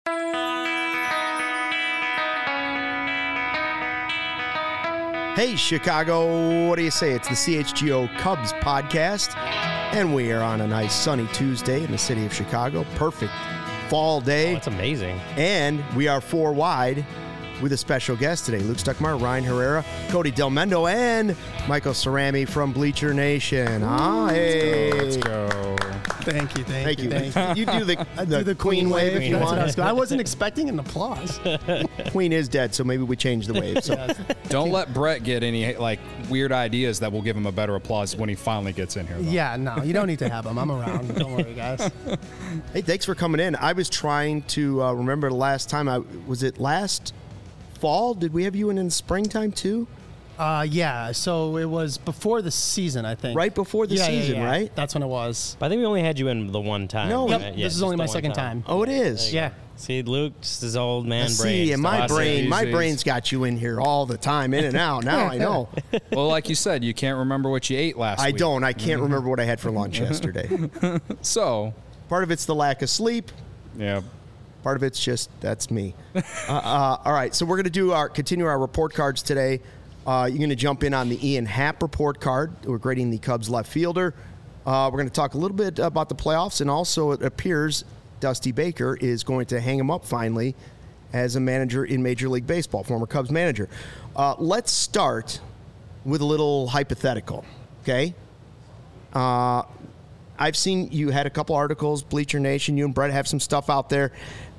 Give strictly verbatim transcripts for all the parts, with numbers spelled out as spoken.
Hey, Chicago, what do you say? It's the C H G O Cubs podcast, and we are on a nice sunny Tuesday in the city of Chicago. Perfect fall day. Oh, that's amazing. And we are four wide with a special guest today. Luke Stuckmeyer, Ryan Herrera, Cody Del Mendo, and Michael Cerami from Bleacher Nation. Ah, hey. Let's go. Thank you, thank, Thank you. you. Thank you. You do the, I the, do the Queen, Queen wave, wave. if you That's want. what I, was, I wasn't expecting an applause. Queen is dead, so maybe we change the wave. So. Yes. Don't let Brett get any like weird ideas that will give him a better applause when he finally gets in here. Though. Yeah, no, you don't need to have them. I'm around. Don't worry, guys. Hey, thanks for coming in. I was trying to uh, remember the last time I was it last fall. Did we have you in in the springtime too? Uh, yeah, so it was before the season, I think. Right before the yeah, season, yeah, yeah. right? That's when it was. But I think we only had you in the one time. No. Yep, right? Yeah, this is just only the my one second time. Oh, it is. Yeah. See, Luke, just his old man brain. See, and my stuff. brain, my Easy. brain's got you in here all the time, in and out. Now I know. Well, like you said, you can't remember what you ate last I week. don't. I can't remember what I had for lunch yesterday. So, Part of it's the lack of sleep. yeah. Part of it's just that's me. uh, uh, all right, so we're going to do our continue our report cards today. Uh, you're going to jump in on the Ian Happ report card. We're grading the Cubs left fielder. Uh, we're going to talk a little bit about the playoffs, and also it appears Dusty Baker is going to hang him up finally as a manager in Major League Baseball, former Cubs manager. Uh, let's start with a little hypothetical, okay? Uh, I've seen you had a couple articles, Bleacher Nation. You and Brett have some stuff out there.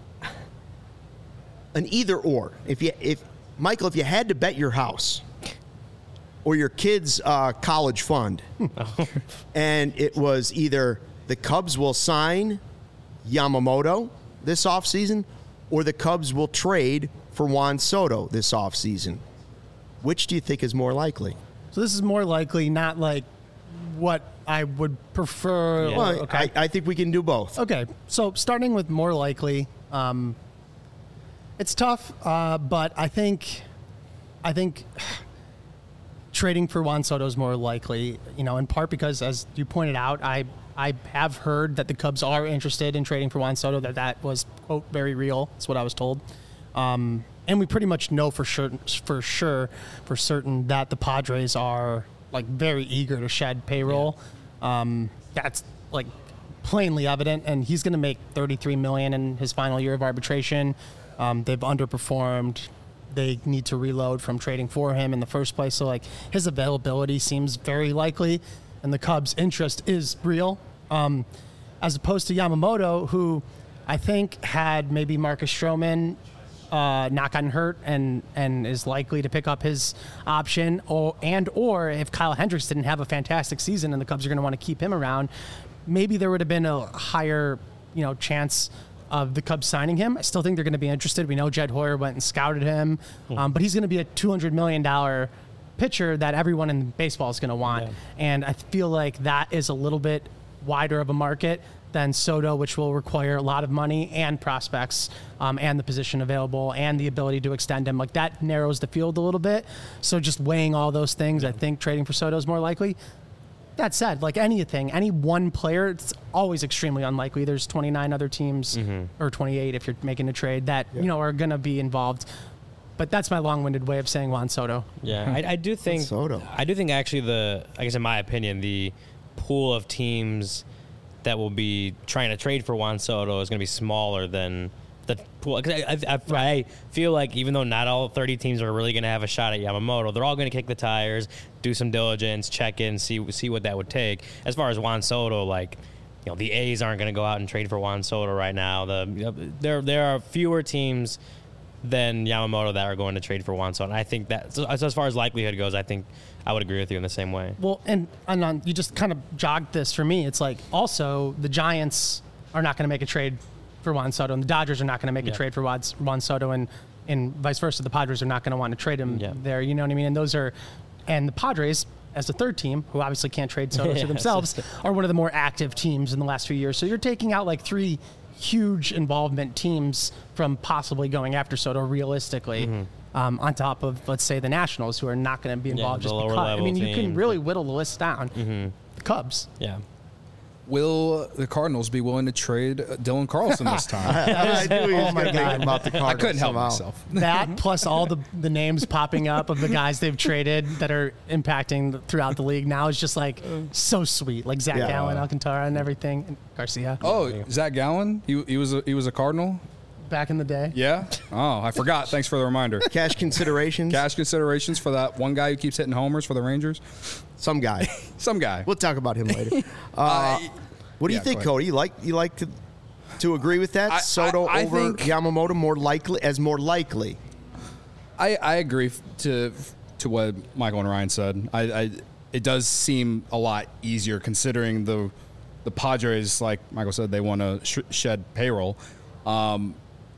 An either or. If you, if Michael, if you had to bet your house or your kid's uh, college fund, and it was either the Cubs will sign Yamamoto this offseason or the Cubs will trade for Juan Soto this offseason, which do you think is more likely? So this is more likely not like what I would prefer. Yeah. Well, okay. I, I think we can do both. Okay, so starting with more likely, um, it's tough, uh, but I think, I think trading for Juan Soto is more likely. You know, in part because, as you pointed out, I I have heard that the Cubs are interested in trading for Juan Soto. That that was quote very real. That's what I was told. Um, and we pretty much know for sure, for sure, for certain that the Padres are like very eager to shed payroll. Yeah. Um, that's like plainly evident, and he's going to make thirty-three million dollars in his final year of arbitration. Um, they've underperformed. They need to reload from trading for him in the first place. So like his availability seems very likely, and the Cubs' interest is real. Um, as opposed to Yamamoto, who I think had maybe Marcus Stroman Uh, not gotten hurt and and is likely to pick up his option, or and or if Kyle Hendricks didn't have a fantastic season and the Cubs are going to want to keep him around, maybe there would have been a higher you know chance of the Cubs signing him. I still think they're going to be interested. We know Jed Hoyer went and scouted him, um, but he's going to be a two hundred million dollars pitcher that everyone in baseball is going to want, yeah. And I feel like that is a little bit wider of a market than Soto, which will require a lot of money and prospects um, and the position available and the ability to extend him. Like that narrows the field a little bit. So just weighing all those things, yeah. I think trading for Soto is more likely. That said, like anything, any one player, it's always extremely unlikely. There's twenty-nine other teams, mm-hmm. or twenty-eight if you're making a trade, that yeah. you know are going to be involved. But that's my long-winded way of saying Juan Soto. Yeah, I, I do think Soto. I do think actually the I guess in my opinion the pool of teams that will be trying to trade for Juan Soto is going to be smaller than the pool. Cause I, I, I, I feel like even though not all thirty teams are really going to have a shot at Yamamoto, they're all going to kick the tires, do some diligence, check in, see see what that would take. As far as Juan Soto, like, you know, the A's aren't going to go out and trade for Juan Soto right now. The you know, there there are fewer teams than Yamamoto that are going to trade for Juan Soto. And I think that, so as far as likelihood goes, I think I would agree with you in the same way. Well, and, and on, you just kind of jogged this for me. It's like also the Giants are not going to make a trade for Juan Soto, and the Dodgers are not going to make yeah. a trade for Juan, Juan Soto, and, and vice versa. The Padres are not going to want to trade him yeah. there. You know what I mean? And those are, and the Padres, as the third team, who obviously can't trade Soto to themselves, are one of the more active teams in the last few years. So you're taking out like three huge involvement teams from possibly going after Soto realistically, mm-hmm. um, on top of, let's say, the Nationals, who are not going to be involved yeah, just because. I mean, you can teams. really whittle the list down. Mm-hmm. The Cubs. Yeah. will the Cardinals be willing to trade Dylan Carlson this time? I knew he was Oh my going to God. think about the Cardinals. I couldn't help somehow. myself. That plus all the, the names popping up of the guys they've traded that are impacting the, throughout the league now is just like so sweet. Like Zach Yeah. Gallen, Alcantara, and everything. And Garcia. Oh, Zach Gallen, he, he was a, he was a Cardinal. Back in the day. Yeah. Oh, I forgot. Thanks for the reminder. Cash considerations. Cash considerations for that one guy who keeps hitting homers for the Rangers. Some guy. Some guy. We'll talk about him later. Uh, what do you yeah, think, go ahead. Cody? You like you like to to agree with that? I- Soto I- I over think- Yamamoto more likely as more likely. I, I agree f- to to what Michael and Ryan said. I, I it does seem a lot easier considering the the Padres, like Michael said, they want to sh- shed payroll. Um,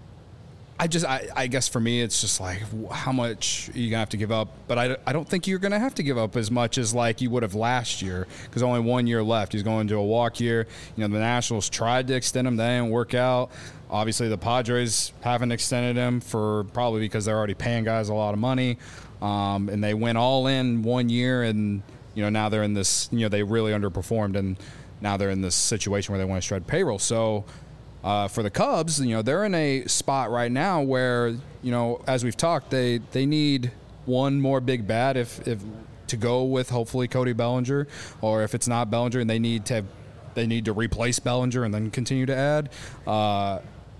I just I, I guess for me it's just like w- how much are you gonna have to give up, but I, I don't think you're gonna have to give up as much as like you would have last year because only one year left. He's going to a walk year. You know the Nationals tried to extend him, that didn't work out. Obviously the Padres haven't extended him for probably because they're already paying guys a lot of money, um, and they went all in one year, and you know now they're in this you know they really underperformed, and now they're in this situation where they want to shred payroll. So. Uh, for the Cubs, you know, they're in a spot right now where, you know, as we've talked, they, they need one more big bat if, if to go with hopefully Cody Bellinger, or if it's not Bellinger and they need to they need to replace Bellinger and then continue to add. Uh,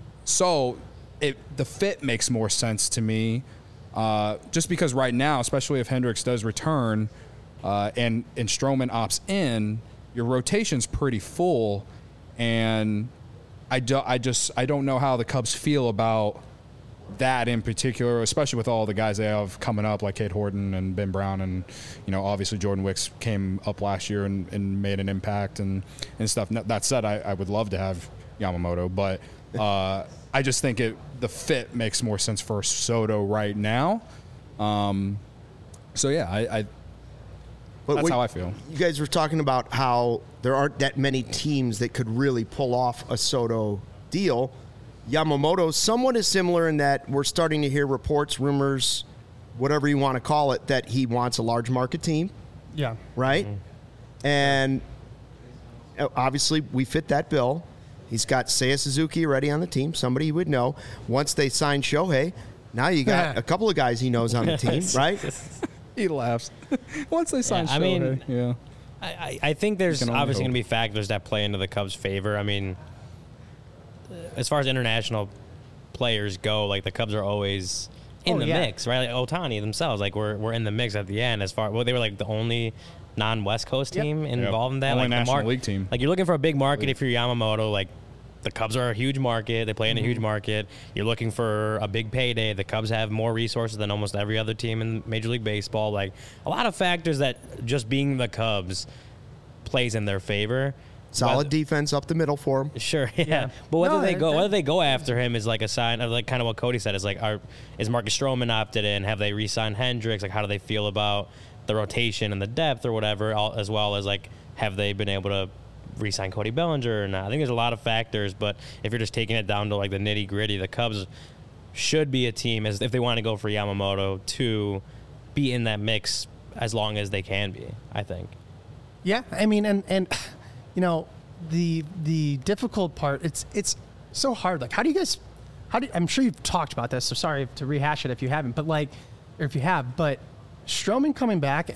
so it the fit makes more sense to me, uh, just because right now, especially if Hendricks does return, uh, and and Stroman opts in, your rotation's pretty full, and I, do, I just I don't know how the Cubs feel about that in particular, especially with all the guys they have coming up like Cade Horton and Ben Brown, and you know obviously Jordan Wicks came up last year and, and made an impact and, and stuff. That said, I, I would love to have Yamamoto, but uh, I just think it the fit makes more sense for Soto right now. Um, so yeah, I, I But that's what- how I feel. You guys were talking about how there aren't that many teams that could really pull off a Soto deal. Yamamoto, somewhat is similar in that we're starting to hear reports, rumors, whatever you want to call it, that he wants a large market team, Yeah. right? And uh, obviously we fit that bill. He's got Seiya Suzuki already on the team, somebody he would know. Once they sign Shohei, now you got a couple of guys he knows on the team, right? He laughs. Once they sign Yeah, I mean- Shohei, yeah. I, I I think there's can only obviously hope. going to be factors that play into the Cubs' favor. I mean, as far as international players go, like the Cubs are always in Oh, the yeah. mix, right? Like Ohtani themselves, like we're we're in the mix at the end. As far well, they were like the only non-West Coast Yep. team involved in that. Only like the National mar- League team. Like you're looking for a big market if you're Yamamoto. Like the Cubs are a huge market. They play in a huge market. You're looking for a big payday. The Cubs have more resources than almost every other team in Major League Baseball. Like a lot of factors that just being the Cubs plays in their favor. Solid Whether- defense up the middle for him. Sure, yeah. Yeah. But whether No, they that- go that- whether they go after him is like a sign of like kind of what Cody said is like are is Marcus Stroman opted in? Have they re-signed Hendricks? Like how do they feel about the rotation and the depth or whatever? All, as well as like have they been able to re-sign Cody Bellinger or not? I think there's a lot of factors, but if you're just taking it down to like the nitty gritty, the Cubs should be a team as if they want to go for Yamamoto to be in that mix as long as they can be. I think. Yeah, I mean, and and you know, the the difficult part. It's it's so hard. Like, how do you guys? How do you, I'm sure you've talked about this. So sorry to rehash it if you haven't. But like, or if you have, but Stroman coming back,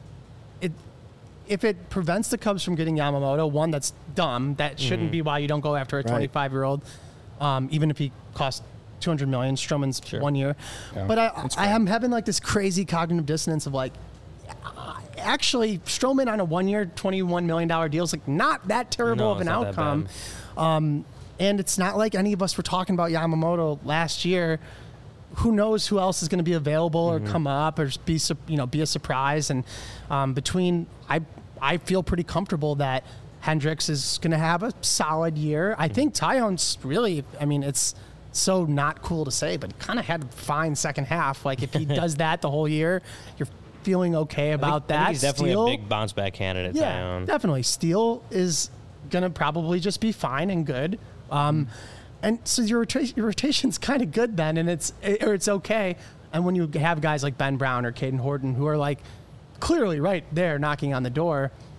it if it prevents the Cubs from getting Yamamoto, one that's dumb. That shouldn't be why you don't go after a twenty-five year old, um, even if he costs two hundred million. Stroman's Sure. one year, Yeah, but I that's I fair. am having like this crazy cognitive dissonance of like. Actually, Stroman on a one-year, twenty-one million dollars deal is like not that terrible No, of an it's not that outcome. Um, and it's not like any of us were talking about Yamamoto last year. Who knows who else is going to be available or come up or be su- you know be a surprise? And um, between I I feel pretty comfortable that Hendricks is going to have a solid year. I think Tyone's really. I mean, it's so not cool to say, but kind of had a fine second half. Like if he does that the whole year, you're feeling okay about I think, that. I think he's definitely Steele- a big bounce back candidate. yeah, Zion. definitely. Steele is going to probably just be fine and good. Um, and so your, rota- your rotation's kind of good then, and it's or it's okay. And when you have guys like Ben Brown or Caden Horton who are like clearly right there knocking on the door,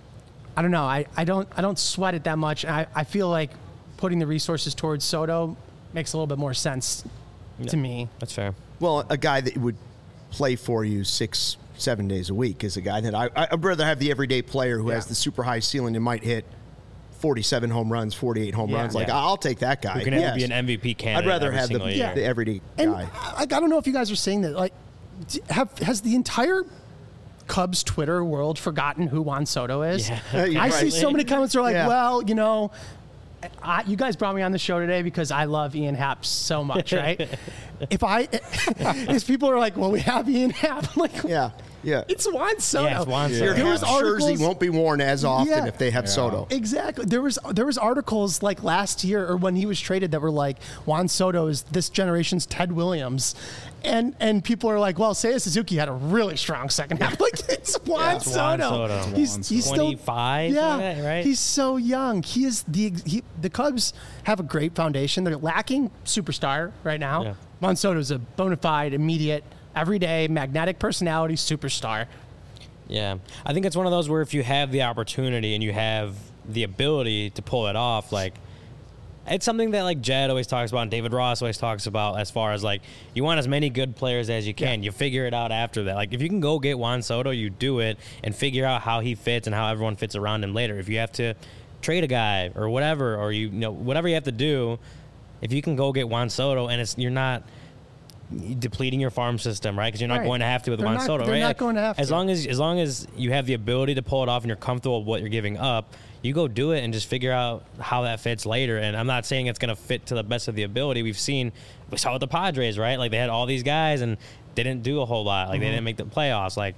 I don't know. I, I don't I don't sweat it that much. I, I feel like putting the resources towards Soto makes a little bit more sense Yeah, to me. That's fair. Well, a guy that would play for you six, seven days a week is a guy that I, I'd rather have the everyday player who Yeah. has the super high ceiling and might hit forty-seven home runs, forty-eight home Yeah. runs. Like, Yeah. I'll take that guy. Who can Yes. be an M V P candidate I'd rather every have the, single year. the everyday And guy. like, I don't know if you guys are saying that. Like, d- have has the entire Cubs Twitter world forgotten who Juan Soto is? Yeah. You're I right. see so many comments are like, Yeah. well, you know, I, you guys brought me on the show today because I love Ian Happ so much, right? if I, if people are like, well, we have Ian Happ, I'm like, Yeah, yeah. it's Juan Soto. Yeah, it's Juan Soto. Your There was Happ jersey articles- won't be worn as often Yeah. if they have Soto. Exactly. There was there was articles like last year or when he was traded that were like Juan Soto is this generation's Ted Williams, and and people are like, well, Seiya Suzuki had a really strong second half. Like it's Juan It's Juan Soto. Soto. He's he's still twenty-five, Yeah, right? He's so young. He is the he, the Cubs have a great foundation. They're lacking superstar right now. Yeah. Juan Soto is a bona fide, immediate, everyday, magnetic personality superstar. Yeah. I think it's one of those where if you have the opportunity and you have the ability to pull it off, like, it's something that, like, Jed always talks about and David Ross always talks about as far as, like, you want as many good players as you can. Yeah. You figure it out after that. Like, if you can go get Juan Soto, you do it and figure out how he fits and how everyone fits around him later. If you have to trade a guy or whatever, or, you, you know, whatever you have to do, if you can go get Juan Soto and it's you're not depleting your farm system, right? Because you're not Right. going to have to with They're Juan not- Soto, they're right? not going to have as to. long as as long as you have the ability to pull it off and you're comfortable with what you're giving up, you go do it and just figure out how that fits later. And I'm not saying it's going to fit to the best of the ability. We've seen, we saw with the Padres, right? Like they had all these guys and didn't do a whole lot. Like Mm-hmm. they didn't make the playoffs. Like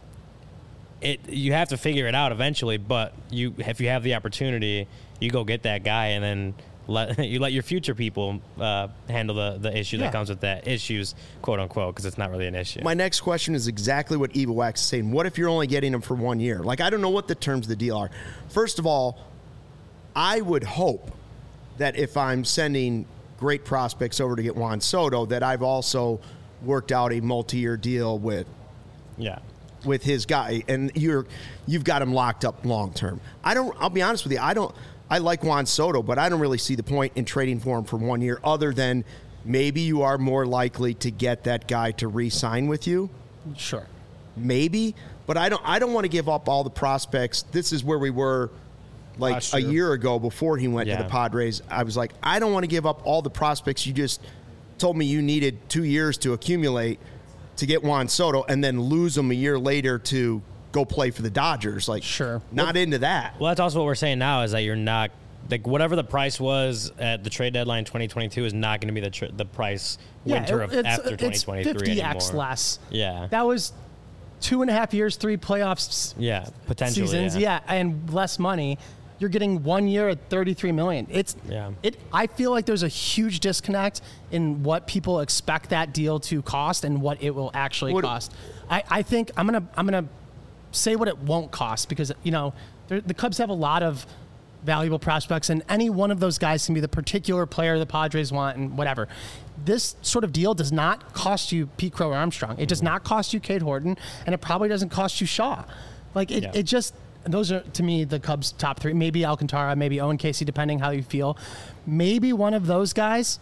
it, you have to figure it out eventually. But you, if you have the opportunity, you go get that guy and then let you let your future people uh, handle the the issue Yeah. that comes with that issues, quote unquote, because it's not really an issue. My next question is exactly what Eva Wax is saying. What if you're only getting him for one year? Like, I don't know what the terms of the deal are. First of all, I would hope that if I'm sending great prospects over to get Juan Soto, that I've also worked out a multi-year deal with yeah. with his guy, and you're you've got him locked up long term. I don't. I'll be honest with you. I don't. I like Juan Soto, but I don't really see the point in trading for him for one year, other than maybe you are more likely to get that guy to re-sign with you. Sure. Maybe, but I don't. I don't want to give up all the prospects. This is where we were, like Last a year. year ago before he went Yeah. to the Padres. I was like, I don't want to give up all the prospects you just told me you needed two years to accumulate to get Juan Soto, and then lose him a year later to go play for the Dodgers. Like, Sure. not into that. Well, that's also what we're saying now is that you're not like whatever the price was at the trade deadline twenty twenty-two is not going to be the tr- the price winter it- of it's, after twenty it's twenty-three fifty x anymore. less. Yeah. That was two and a half years, three playoffs Yeah, potentially. seasons, yeah. yeah, and less money. You're getting one year at thirty-three million. It's Yeah. It. I feel like there's a huge disconnect in what people expect that deal to cost and what it will actually What- cost. I, I think I'm gonna I'm gonna say what it won't cost because you know there- the Cubs have a lot of valuable prospects, and any one of those guys can be the particular player the Padres want and whatever. This sort of deal does not cost you Pete Crow or Armstrong. It does not cost you Cade Horton, and it probably doesn't cost you Shaw. Like it, Yeah. it just those are to me the Cubs' top three. Maybe Alcantara, maybe Owen Casey, depending how you feel. Maybe one of those guys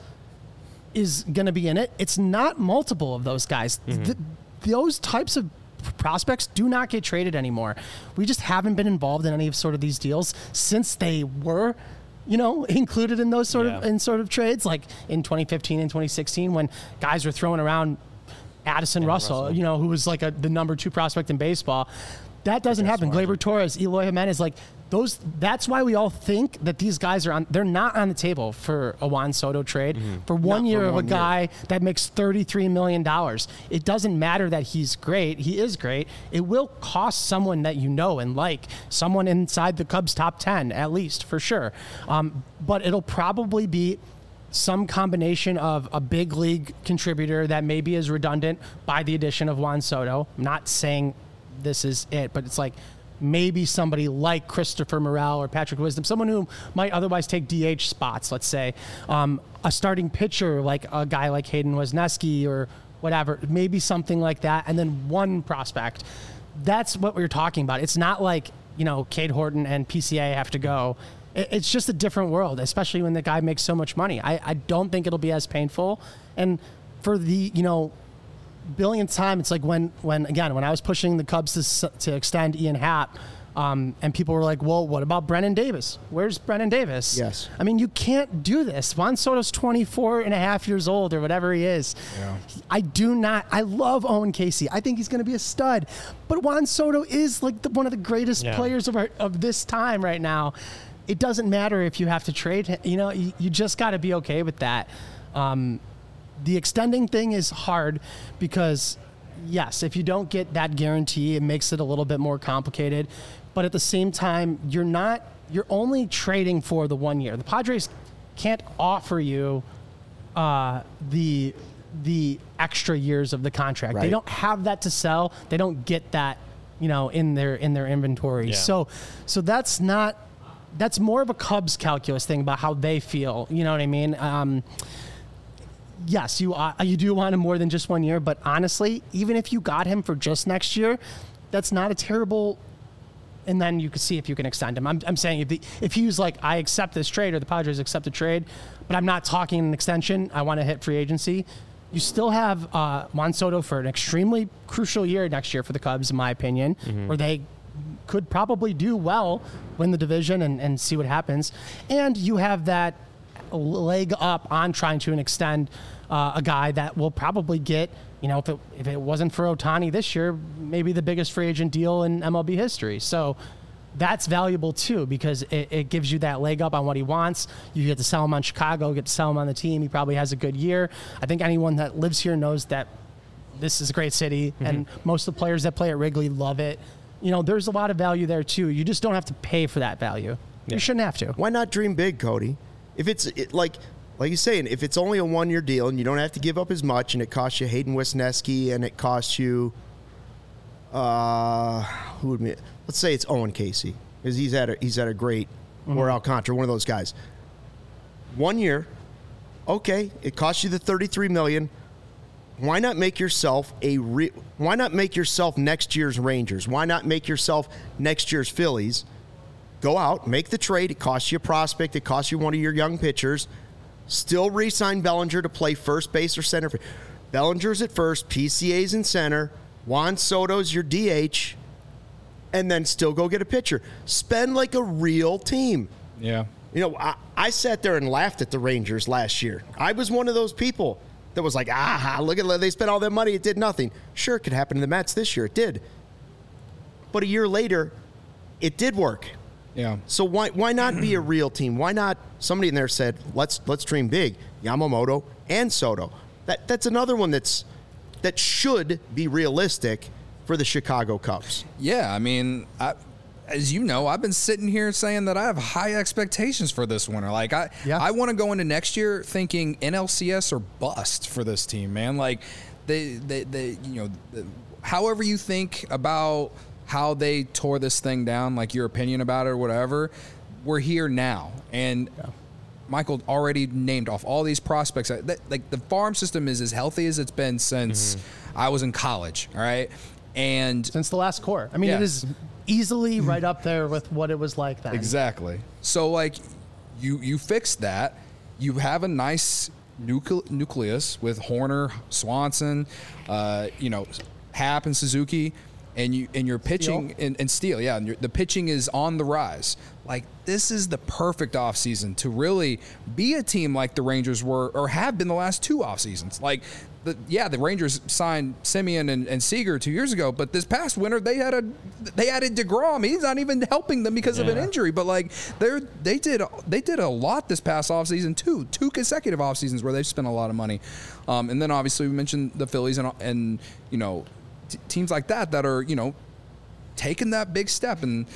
is going to be in it. It's not multiple of those guys. Th- those types of prospects do not get traded anymore. We just haven't been involved in any of sort of these deals since they were, you know, included in those sort of Yeah. in sort of trades, like in twenty fifteen and twenty sixteen when guys were throwing around Addison Russell, Russell. you know, who was like a, the number two prospect in baseball. That doesn't happen. Gleyber Torres, Eloy Jimenez, like those. That's why we all think that these guys are on. They're not on the table for a Juan Soto trade for one Not for year of a one year. guy that makes thirty-three million dollars. It doesn't matter that he's great. He is great. It will cost someone that you know and like, someone inside the Cubs top ten at least for sure. Um, but it'll probably be some combination of a big league contributor that maybe is redundant by the addition of Juan Soto. I'm not saying this is it, but it's like maybe somebody like Christopher Morel or Patrick Wisdom, someone who might otherwise take D H spots, let's say. Um, a starting pitcher like a guy like Hayden Wesneski or whatever, maybe something like that, and then one prospect. That's what we're talking about. It's not like you know, Cade Horton and P C A have to go. It, it's just a different world, especially when the guy makes so much money. I, I don't think it'll be as painful. And for the, you know, billionth time, it's like when, when again, when I was pushing the Cubs to, to extend Ian Happ, um, and people were like, well, what about Brennan Davis? Where's Brennan Davis? Yes. I mean, you can't do this. Juan Soto's twenty-four and a half years old or whatever he is. Yeah. I do not, I love Owen Casey. I think he's going to be a stud. But Juan Soto is like the, one of the greatest Yeah. players of, our, of this time right now. It doesn't matter if you have to trade him. You know, you, you just got to be okay with that. Um, the extending thing is hard because, yes, if you don't get that guarantee, it makes it a little bit more complicated. But at the same time, you're not, you're only trading for the one year. The Padres can't offer you uh, the the extra years of the contract. Right. They don't have that to sell. They don't get that, you know, in their in their inventory. Yeah. So so that's not that's more of a Cubs calculus thing about how they feel. You know what I mean? Um, yes, you uh, you do want him more than just one year, but honestly, even if you got him for just next year, that's not a terrible. And then you can see if you can extend him. I'm, I'm saying if the, if he was like, I accept this trade, or the Padres accept the trade, but I'm not talking an extension, I want to hit free agency, you still have uh, Juan Soto for an extremely crucial year next year for the Cubs, in my opinion, mm-hmm. where they could probably do well, win the division, and, and see what happens. And you have that leg up on trying to extend uh, a guy that will probably get, you know, if it, if it wasn't for Ohtani this year, maybe the biggest free agent deal in M L B history. So that's valuable too, because it, it gives you that leg up on what he wants. You get to sell him on Chicago, get to sell him on the team. He probably has a good year. I think anyone that lives here knows that this is a great city, mm-hmm. and most of the players that play at Wrigley love it. You know, there's a lot of value there too. You just don't have to pay for that value. Yeah. You shouldn't have to. Why not dream big, Cody? If it's it, like, like you're saying, if it's only a one-year deal and you don't have to give up as much, and it costs you Hayden Wesneski, and it costs you, uh, who would be, let's say it's Owen Casey, because he's at a he's at a great, mm-hmm. or Alcantara, one of those guys. One year, okay, it costs you the thirty-three million dollars. Why not make yourself a re- why not make yourself next year's Rangers? Why not make yourself next year's Phillies? Go out, make the trade. It costs you a prospect. It costs you one of your young pitchers. Still re-sign Bellinger to play first base or center. Bellinger's at first, P C A's in center, Juan Soto's your D H, and then still go get a pitcher. Spend like a real team. Yeah. You know, I, I sat there and laughed at the Rangers last year. I was one of those people that was like, ah, look at they spent all that money, it did nothing. Sure, it could happen to the Mets this year. It did. But a year later, it did work. Yeah. So why why not be a real team? Why not? Somebody in there said, let's let's dream big. Yamamoto and Soto. That that's another one that's that should be realistic for the Chicago Cubs. Yeah, I mean, I, as you know, I've been sitting here saying that I have high expectations for this winter. Like I yeah. I want to go into next year thinking N L C S or bust for this team, man. Like they they, they you know, the, however you think about how they tore this thing down, like your opinion about it or whatever, we're here now. And yeah. Michael already named off all these prospects. That, like the farm system is as healthy as it's been since mm-hmm. I was in college, all right? And since the last core. I mean, yeah. it is easily right up there with what it was like then. Exactly. So, like, you you fix that. You have a nice nucle- nucleus with Horner, Swanson, uh, you know, Happ and Suzuki. And you and your pitching and, and Steele, yeah, and the pitching is on the rise. Like this is the perfect offseason to really be a team like the Rangers were or have been the last two off seasons. Like the yeah, the Rangers signed Semien and, and Seager two years ago, but this past winter they had a they added DeGrom. He's not even helping them because yeah. of an injury. But like they they did they did a lot this past offseason too, two consecutive off seasons where they've spent a lot of money. Um, and then obviously we mentioned the Phillies and and you know. T- teams like that that are, you know, taking that big step. And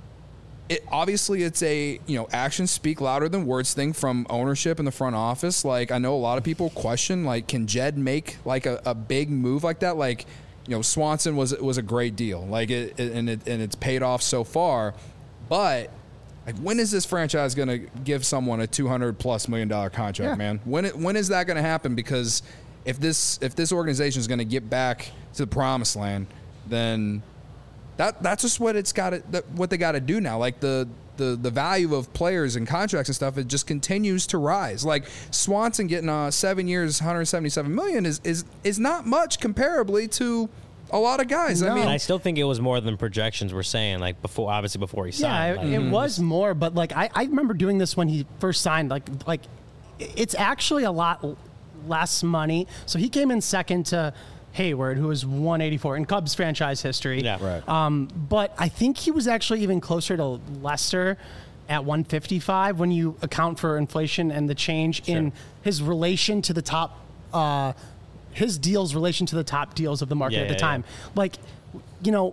it obviously it's a, you know, actions speak louder than words thing from ownership in the front office. Like I know a lot of people question, like, can Jed make like a, a big move like that? Like, you know, Swanson was was a great deal. Like it, it and it and it's paid off so far. But like, when is this franchise going to give someone a two hundred plus million dollar contract, yeah. man? When it, when is that going to happen? Because if this if this organization is going to get back to the promised land, then that that's just what it's got to what they got to do now. Like the. The, the value of players and contracts and stuff, it just continues to rise. Like Swanson getting uh, seven years, one hundred seventy-seven million is is is not much comparably to a lot of guys. No. I mean, And I still think it was more than projections were saying. Like before, obviously before he Yeah, signed. it, like, it was more, but like I, I remember doing this when he first signed. Like like it's actually a lot l- less money. So he came in second to Hayward, who was one eighty-four in Cubs franchise history. Yeah. Right. Um, but I think he was actually even closer to Lester at one fifty-five when you account for inflation and the change in his relation to the top, uh, his deals relation to the top deals of the market Yeah, at the yeah, time. Like, you know,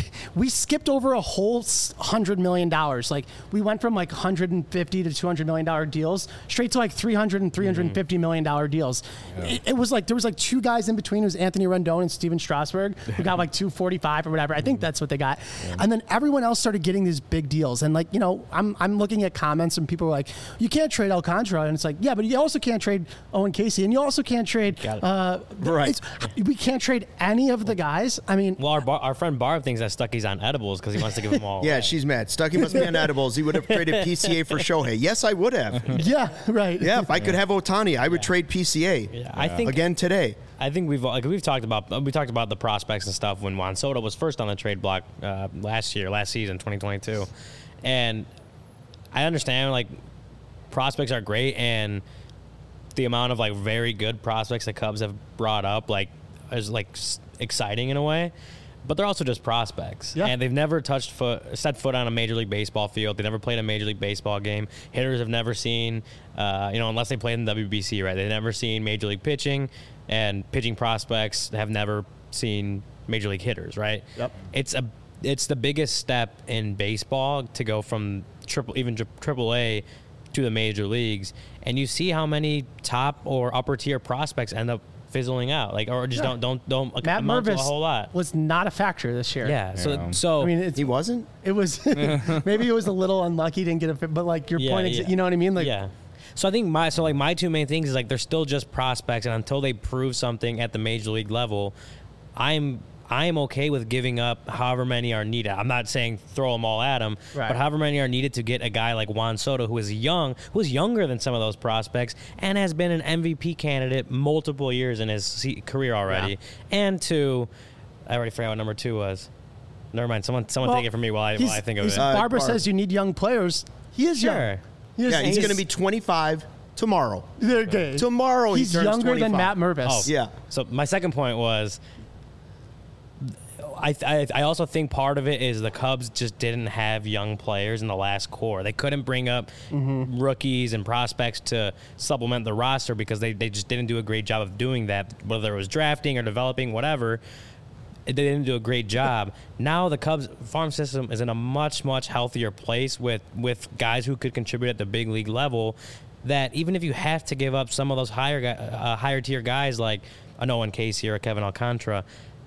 we skipped over a whole hundred million dollars. Like we went from like one hundred fifty to two hundred million dollar deals straight to like three hundred and three hundred fifty million dollar deals. It, it was like there was like two guys in between. It was Anthony Rendon and Steven Strasburg who got like two forty-five or whatever. I think that's what they got. And then everyone else started getting these big deals. And like you know, I'm I'm looking at comments and people were like, you can't trade Alcantara, and it's like yeah, but you also can't trade Owen Casey, and you also can't trade. Got it. Uh, Right. it's- We can't trade any of the guys. I mean, Well, our, bar, our friend Barb thinks that Stucky's on edibles because he wants to give them all. Yeah, away. she's mad. Stucky must be on edibles. He would have traded P C A for Shohei. Yes, I would have. yeah, right. Yeah, if I could have Otani, I would trade P C A Yeah, I think again today. I think we've like we've talked about we talked about the prospects and stuff when Juan Soto was first on the trade block uh, last year, last season, twenty twenty-two, and I understand like prospects are great and the amount of like very good prospects the Cubs have brought up like is like s- exciting in a way. But they're also just prospects, Yeah. and they've never touched foot, set foot on a Major League Baseball field. They never played a Major League Baseball game. Hitters have never seen, uh, you know, unless they played in the W B C, right? They've never seen Major League pitching, and pitching prospects have never seen Major League hitters, right? Yep. It's a, it's the biggest step in baseball to go from triple, even tri- triple A to the major leagues, and you see how many top or upper tier prospects end up fizzling out, like or just Yeah. don't don't don't Matt amount to a Mervis whole lot. was not a factor this year. Yeah. So Yeah. so I mean, it's, He wasn't? it was maybe it was a little unlucky, didn't get a fit, but like your Yeah, point, is, yeah. you know what I mean? Like, yeah. So I think my so like my two main things is like they're still just prospects, and until they prove something at the major league level, I'm I am okay with giving up however many are needed. I'm not saying throw them all at them, Right. but however many are needed to get a guy like Juan Soto, who is young, who is younger than some of those prospects, and has been an M V P candidate multiple years in his se- career already. And two, I already forgot what number two was. Never mind. Someone someone Well, take it from me while I, while he's- I think of he's- it. Uh, Barbara Barb. says you need young players. He is young. Sure. He is- Yeah, he's he going to is- be twenty-five tomorrow. okay. Tomorrow he He's turns younger than twenty-five. Matt Mervis. Oh, Yeah. So my second point was, I, I I also think part of it is the Cubs just didn't have young players in the last core. They couldn't bring up rookies and prospects to supplement the roster because they, they just didn't do a great job of doing that, whether it was drafting or developing, whatever. They didn't do a great job. Now the Cubs farm system is in a much, much healthier place with, with guys who could contribute at the big league level, that even if you have to give up some of those higher guy- uh, higher tier guys like an Owen Casey or a Kevin Alcantara,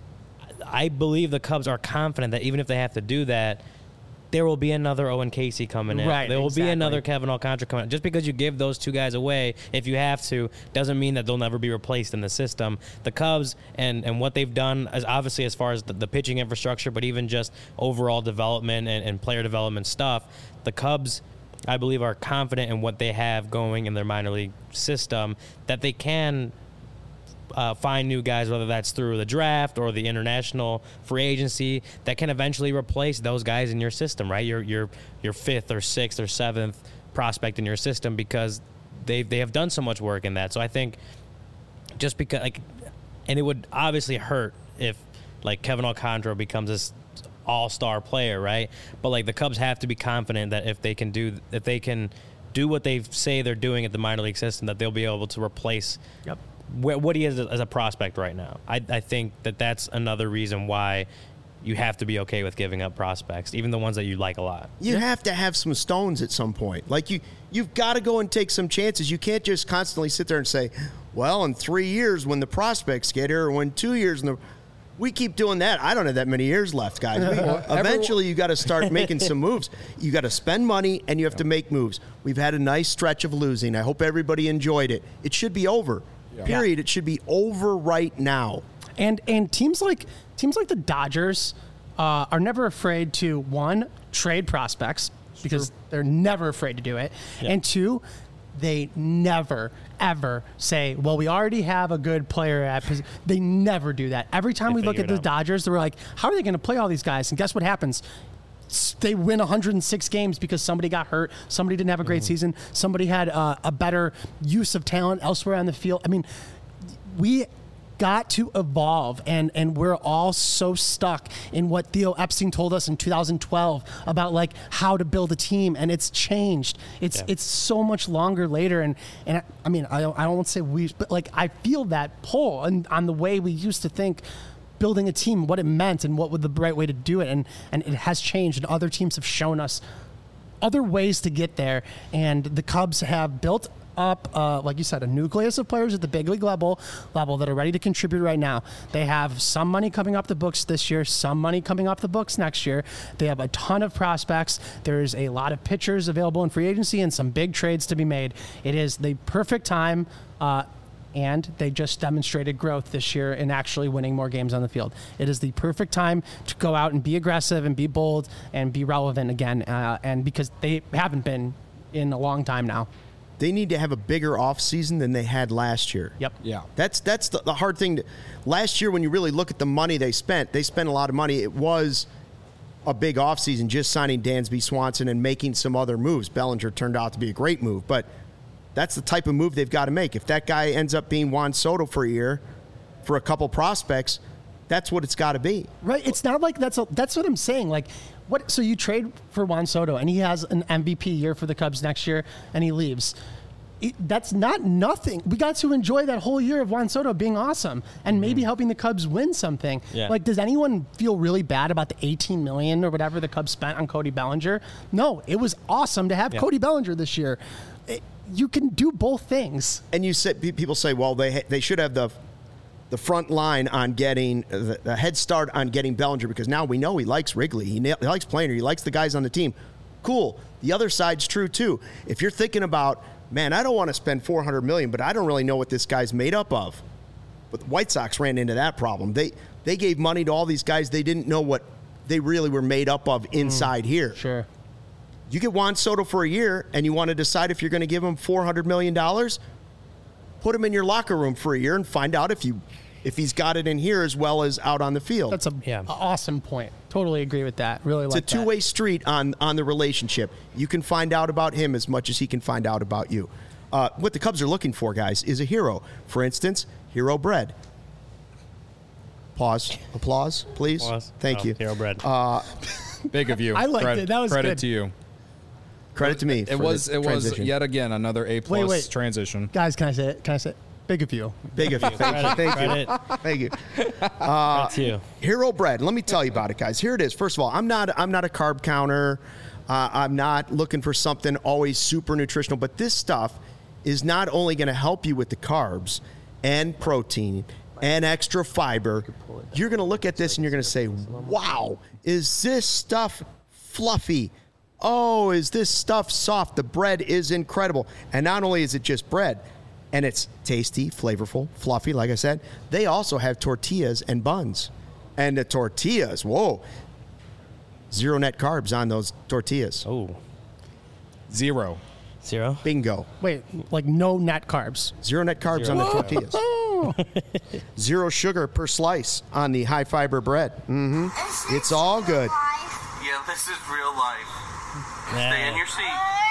I believe the Cubs are confident that even if they have to do that, there will be another Owen Casey coming in. Right, There will exactly. be another Kevin Alcantara coming in. Just because you give those two guys away, if you have to, doesn't mean that they'll never be replaced in the system. The Cubs and, and what they've done, is obviously as far as the, the pitching infrastructure, but even just overall development and, and player development stuff, the Cubs, I believe, are confident in what they have going in their minor league system, that they can Uh, find new guys, whether that's through the draft or the international free agency, that can eventually replace those guys in your system, right? Your your your fifth or sixth or seventh prospect in your system, because they they have done so much work in that. So I think just because like, and it would obviously hurt if like Kevin Alcantara becomes this all-star player, right? But like the Cubs have to be confident that if they can do if they can do what they say they're doing at the minor league system, that they'll be able to replace Yep. wh- what he is as a prospect right now. I, I think that that's another reason why you have to be okay with giving up prospects, even the ones that you like a lot. You have to have some stones at some point. Like you, you've got to go and take some chances. You can't just constantly sit there and say, "Well, in three years when the prospects get here, or when two years and the." We keep doing that. I don't have that many years left, guys. We, eventually, you got to start making some moves. You got to spend money and you have to make moves. We've had a nice stretch of losing. I hope everybody enjoyed it. It should be over. Period. It should be over right now. And and teams like teams like the Dodgers, uh, are never afraid to, one, trade prospects because they're never afraid to do it. Yeah. And two, they never, ever say, well, we already have a good player at position. They never do that. Every time They we look figure at the it out. Dodgers, they're like, how are they going to play all these guys? And guess what happens? S- They win one hundred six games because somebody got hurt, somebody didn't have a great Mm-hmm. season, somebody had uh, a better use of talent elsewhere on the field. I mean, we got to evolve, and and we're all so stuck in what Theo Epstein told us in two thousand twelve about like how to build a team, and it's changed. It's Yeah. it's so much longer later, and and I, I mean I don't I don't want to say we, but like I feel that pull and on the way we used to think building a team, what it meant, and what was the right way to do it, and and it has changed, and other teams have shown us other ways to get there, and the Cubs have built up, uh, like you said, a nucleus of players at the big league level level that are ready to contribute right now. They have some money coming off the books this year, some money coming off the books next year. They have a ton of prospects. There's a lot of pitchers available in free agency and some big trades to be made. It is the perfect time, uh, and they just demonstrated growth this year in actually winning more games on the field. It is the perfect time to go out and be aggressive and be bold and be relevant again, uh, and because they haven't been in a long time now. They need to have a bigger offseason than they had last year. Yep. Yeah. That's that's the, the hard thing. To, last year, when you really look at the money they spent, they spent a lot of money. It was a big offseason just signing Dansby Swanson and making some other moves. Bellinger turned out to be a great move, but that's the type of move they've got to make. If that guy ends up being Juan Soto for a year, for a couple prospects, that's what it's got to be. Right. It's not like that's a, that's what I'm saying. Like, what? So you trade for Juan Soto, and he has an M V P year for the Cubs next year, and he leaves. It, that's not nothing. We got to enjoy that whole year of Juan Soto being awesome, and maybe helping the Cubs win something. Yeah. Like, does anyone feel really bad about the eighteen million dollars or whatever the Cubs spent on Cody Bellinger? No, it was awesome to have Yeah. Cody Bellinger this year. It, you can do both things. And you said people say, well, they ha- they should have the the front line on getting the, the head start on getting Bellinger because now we know he likes Wrigley, he, na- he likes Planer, he likes the guys on the team. Cool. The other side's true too. If you're thinking about, man, I don't want to spend four hundred million dollars, but I don't really know what this guy's made up of. But the White Sox ran into that problem. They they gave money to all these guys they didn't know what they really were made up of inside here. Sure. You get Juan Soto for a year and you want to decide if you're going to give him four hundred million dollars, put him in your locker room for a year and find out if you if he's got it in here as well as out on the field. That's a Yeah. a awesome point. Totally agree with that. Really It's like a two-way street on, on the relationship. You can find out about him as much as he can find out about you. Uh, what the Cubs are looking for, guys, is a hero. For instance, Hero Bread. Pause. Applause, please. Applause. Thank Oh, you. Hero Bread. Big of you. I liked Credit- it. That was credit good. to you. Credit to me. It for was the it was transition. yet again another A plus wait. transition. Guys, can I say it? Can I say it? Big of you. Big of you. Thank you. Thank you. Credit. Thank you. That's you. Hero Bread. Let me tell you about it, guys. Here it is. First of all, I'm not I'm not a carb counter. Uh, I'm not looking for something always super nutritional, but this stuff is not only going to help you with the carbs and protein and extra fiber. You're going to look at this and you're going to say, "Wow, is this stuff fluffy? Oh, is this stuff soft? The bread is incredible." And not only is it just bread, and it's tasty, flavorful, fluffy, like I said, they also have tortillas and buns. And the tortillas, whoa, zero net carbs on those tortillas. Oh, Zero. zero. Bingo. Wait, like no net carbs. Zero net carbs Zero. on the tortillas. Zero sugar per slice on the high fiber bread. Mm-hmm. It's all good. Yeah, this is real life. Stay in your seat.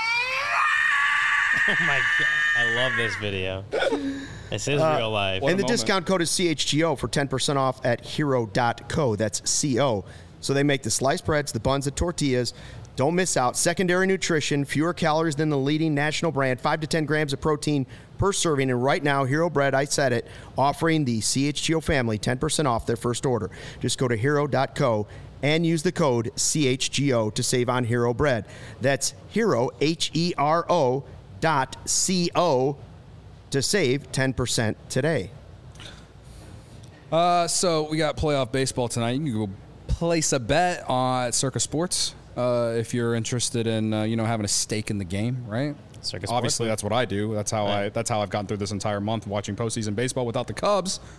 Oh my god, I love this video. This is real life. What And a the moment. discount code is C H G O for ten percent off at hero dot co. That's C O. So they make the sliced breads, the buns, the tortillas. Don't miss out. Secondary nutrition, fewer calories than the leading national brand, five to ten grams of protein per serving. And right now, Hero Bread, I said it, offering the C H G O family ten percent off their first order. Just go to hero dot co and use the code C H G O to save on Hero Bread. That's Hero, H E R O, dot C O to save ten percent today. Uh, so we got playoff baseball tonight. You can go place a bet on at Circus Sports uh, if you're interested in uh, you know having a stake in the game, right? Circus Obviously, Sports. that's what I do. That's how I. Right. That's how I've gotten through this entire month watching postseason baseball without the Cubs.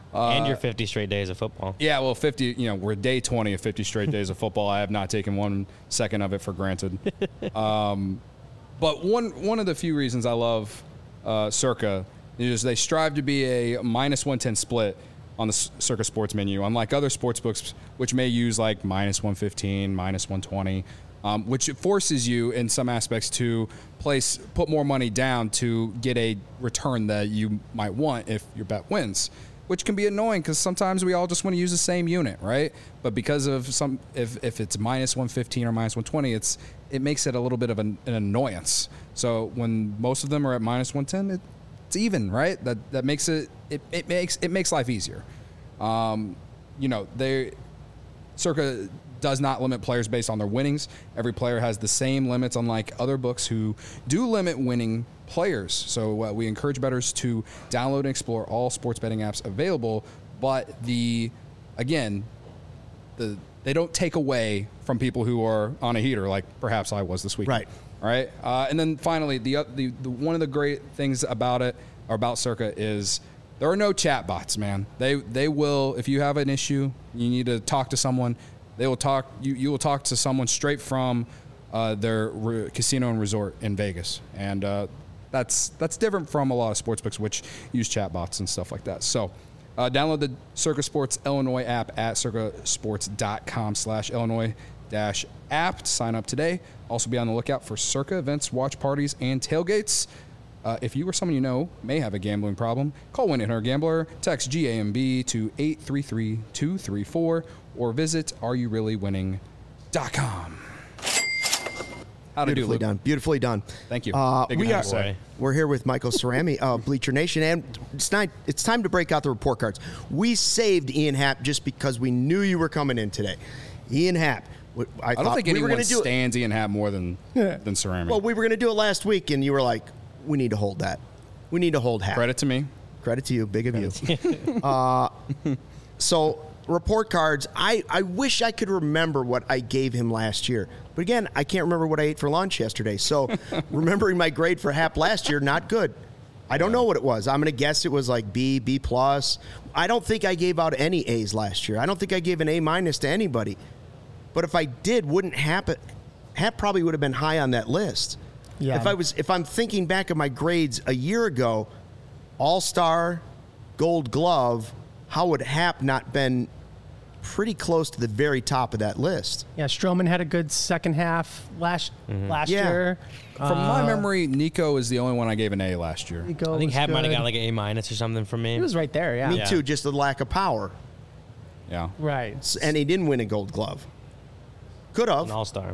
Uh, and your fifty straight days of football. Yeah, well, fifty. You know, we're day twenty of fifty straight days of football. I have not taken one second of it for granted. Um, but one one of the few reasons I love uh, Circa is they strive to be a minus one ten split on the Circa Sports menu, unlike other sports books, which may use like minus one fifteen, minus one twenty, um, which forces you in some aspects to place put more money down to get a return that you might want if your bet wins, which can be annoying because sometimes we all just want to use the same unit, right? But because of some, if, if it's minus one fifteen or minus one twenty, it's it makes it a little bit of an, an annoyance. So when most of them are at minus one ten, it, it's even, right? That that makes it it, it makes it makes life easier. Um, you know, they Circa does not limit players based on their winnings. Every player has the same limits, unlike other books who do limit winning players. So uh, we encourage bettors to download and explore all sports betting apps available. But the again, the they don't take away from people who are on a heater, like perhaps I was this week. Right. All right. Uh, and then finally, the, the the one of the great things about it or about Circa is there are no chat bots, man. They they will, if you have an issue, you need to talk to someone. They will talk. You you will talk to someone straight from uh, their re- casino and resort in Vegas, and uh, that's that's different from a lot of sportsbooks which use chat bots and stuff like that. So. Uh, download the Circa Sports Illinois app at circasports.com slash Illinois dash app to sign up today. Also be on the lookout for Circa events, watch parties, and tailgates. Uh, if you or someone you know may have a gambling problem, call one eight hundred gambler, text G A M B to eight three three two three four, or visit are you really winning dot com. How to do, Beautifully Luke? done. Beautifully done. Thank you. Uh, Big we are, thanks, boy. we're here with Michael Cerami of Bleacher Nation, and it's, not, it's time to break out the report cards. We saved Ian Happ just because we knew you were coming in today. Ian Happ. I, I don't thought think we anyone were gonna do it. stands Ian Happ more than than Ceramic. Well, we were going to do it last week, and you were like, we need to hold that. We need to hold Happ. Credit to me. Credit to you. Big of you. uh, so, report cards. I, I wish I could remember what I gave him last year. But again, I can't remember what I ate for lunch yesterday. So, remembering my grade for Happ last year, not good. I don't know what it was. I'm going to guess it was like B, B plus. I don't think I gave out any A's last year. I don't think I gave an A minus to anybody. But if I did, wouldn't Happ, Happ probably would have been high on that list. Yeah. If I was, if I'm thinking back of my grades a year ago, All-Star, Gold Glove, how would Happ not been pretty close to the very top of that list? Yeah, Stroman had a good second half last last Yeah. year. From my Uh, memory, Nico is the only one I gave an A last year. Nico I think was Happ might have good. got like an A minus or something from me. He was right there, yeah. Me Yeah. too, just the lack of power. Yeah. Right. S- And he didn't win a Gold Glove. Could have. an all star.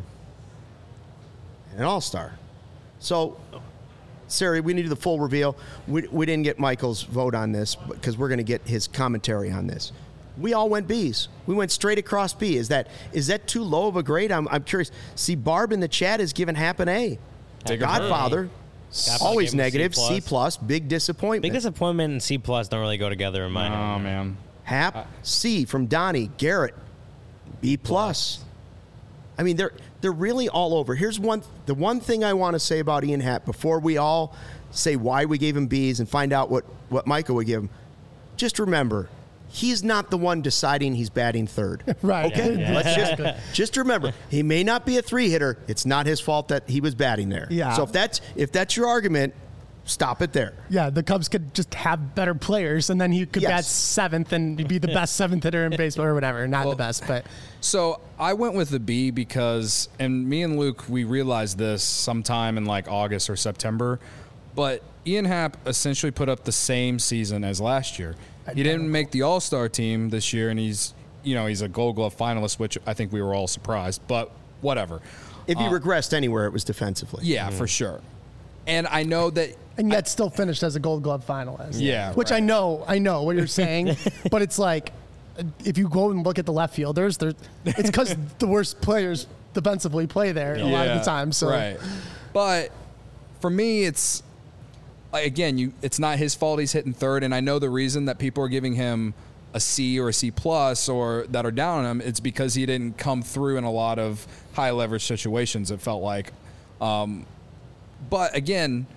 An all-star. So, Sari, we need the full reveal. We, we didn't get Michael's vote on this because we're going to get his commentary on this. We all went B's. We went straight across B. Is that is that too low of a grade? I'm, I'm curious. See, Barb in the chat is giving Happ an A. Big Godfather, Godfather always gave him a C negative. C plus. plus, big disappointment. Big disappointment and C plus don't really go together in my Oh opinion. man. Happ, C from Donnie. Garrett, B plus. I mean, they're they're really all over. Here's one the one thing I want to say about Ian Happ before we all say why we gave him B's and find out what, what Michael would give him. Just remember, he's not the one deciding he's batting third. Right. Okay? Yeah, yeah. Let's just just remember, he may not be a three hitter. It's not his fault that he was batting there. Yeah. So if that's if that's your argument, stop it there. Yeah, the Cubs could just have better players, and then he could Yes. bat seventh and be the best seventh hitter in baseball or whatever. Not the best, but So I went with the B because, and me and Luke, we realized this sometime in like August or September, but Ian Happ essentially put up the same season as last year. He didn't make the All-Star team this year, and he's, you know, he's a Gold Glove finalist, which I think we were all surprised, but whatever. If he regressed anywhere, it was defensively. Yeah, for sure. And I know that and yet still finished as a Gold Glove finalist. Yeah, which I right. know, I know what you're saying, but it's like if you go and look at the left fielders, there, it's because the worst players defensively play there a lot of the time. So right. But for me, it's like, again, you it's not his fault he's hitting third, and I know the reason that people are giving him a C or a C plus or that are down on him. It's because he didn't come through in a lot of high leverage situations. It felt like, um, but again, he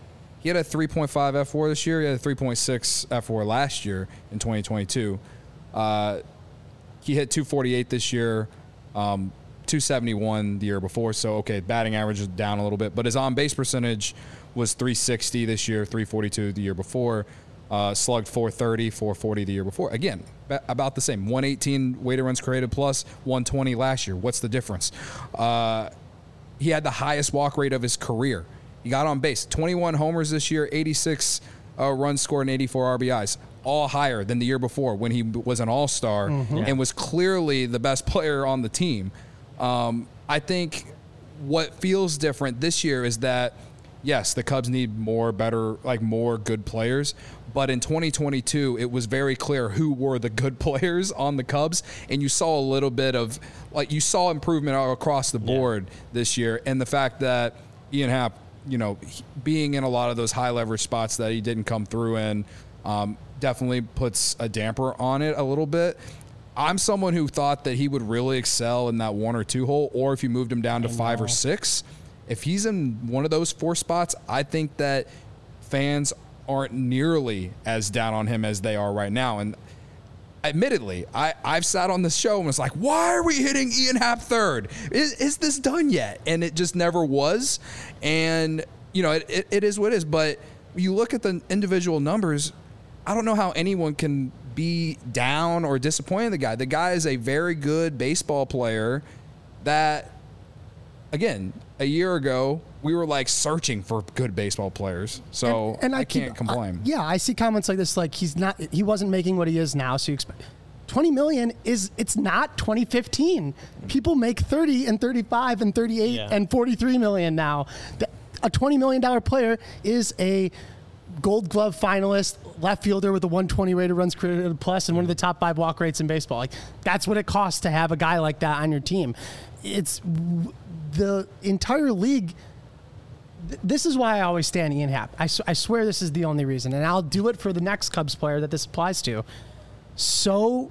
he had a three point five F W A R this year. He had a three point six F W A R last year in twenty twenty-two. Uh, he hit two forty-eight this year, um, two seventy-one the year before. So, okay, batting average is down a little bit. But his on-base percentage was three sixty this year, three forty-two the year before. Uh, slugged four thirty, four forty the year before. Again, ba- about the same. one eighteen weighted runs created plus, one twenty last year. What's the difference? Uh, he had the highest walk rate of his career. He got on base. twenty-one homers this year, eighty-six uh, runs scored, and eighty-four R B Is. All higher than the year before when he was an all-star mm-hmm. and was clearly the best player on the team. Um, I think what feels different this year is that, yes, the Cubs need more better, like more good players. But in twenty twenty-two, it was very clear who were the good players on the Cubs. And you saw a little bit of, like, you saw improvement across the board yeah. this year. And the fact that Ian Happ, you know, being in a lot of those high leverage spots that he didn't come through in, um, definitely puts a damper on it a little bit. I'm someone who thought that he would really excel in that one or two hole, or if you moved him down to five or six. If he's in one of those four spots, I think that fans aren't nearly as down on him as they are right now. And admittedly, I, I've sat on this show and was like, why are we hitting Ian Happ third? Is, is this done yet? And it just never was. And, you know, it, it, it is what it is. But you look at the individual numbers, I don't know how anyone can be down or disappointed in the guy. The guy is a very good baseball player that, again, a year ago, we were like searching for good baseball players. So and, and I, I can't keep, complain. I, yeah, I see comments like this, like he's not, he wasn't making what he is now. So you expect twenty million is, it's not twenty fifteen. People make thirty and thirty-five and thirty-eight yeah. and forty-three million now. A twenty million dollars player is a Gold Glove finalist, left fielder with a one twenty rated runs created plus, and one of the top five walk rates in baseball. Like, that's what it costs to have a guy like that on your team. It's the entire league. Th- this is why I always stand Ian Happ. I, I swear this is the only reason, and I'll do it for the next Cubs player that this applies to. So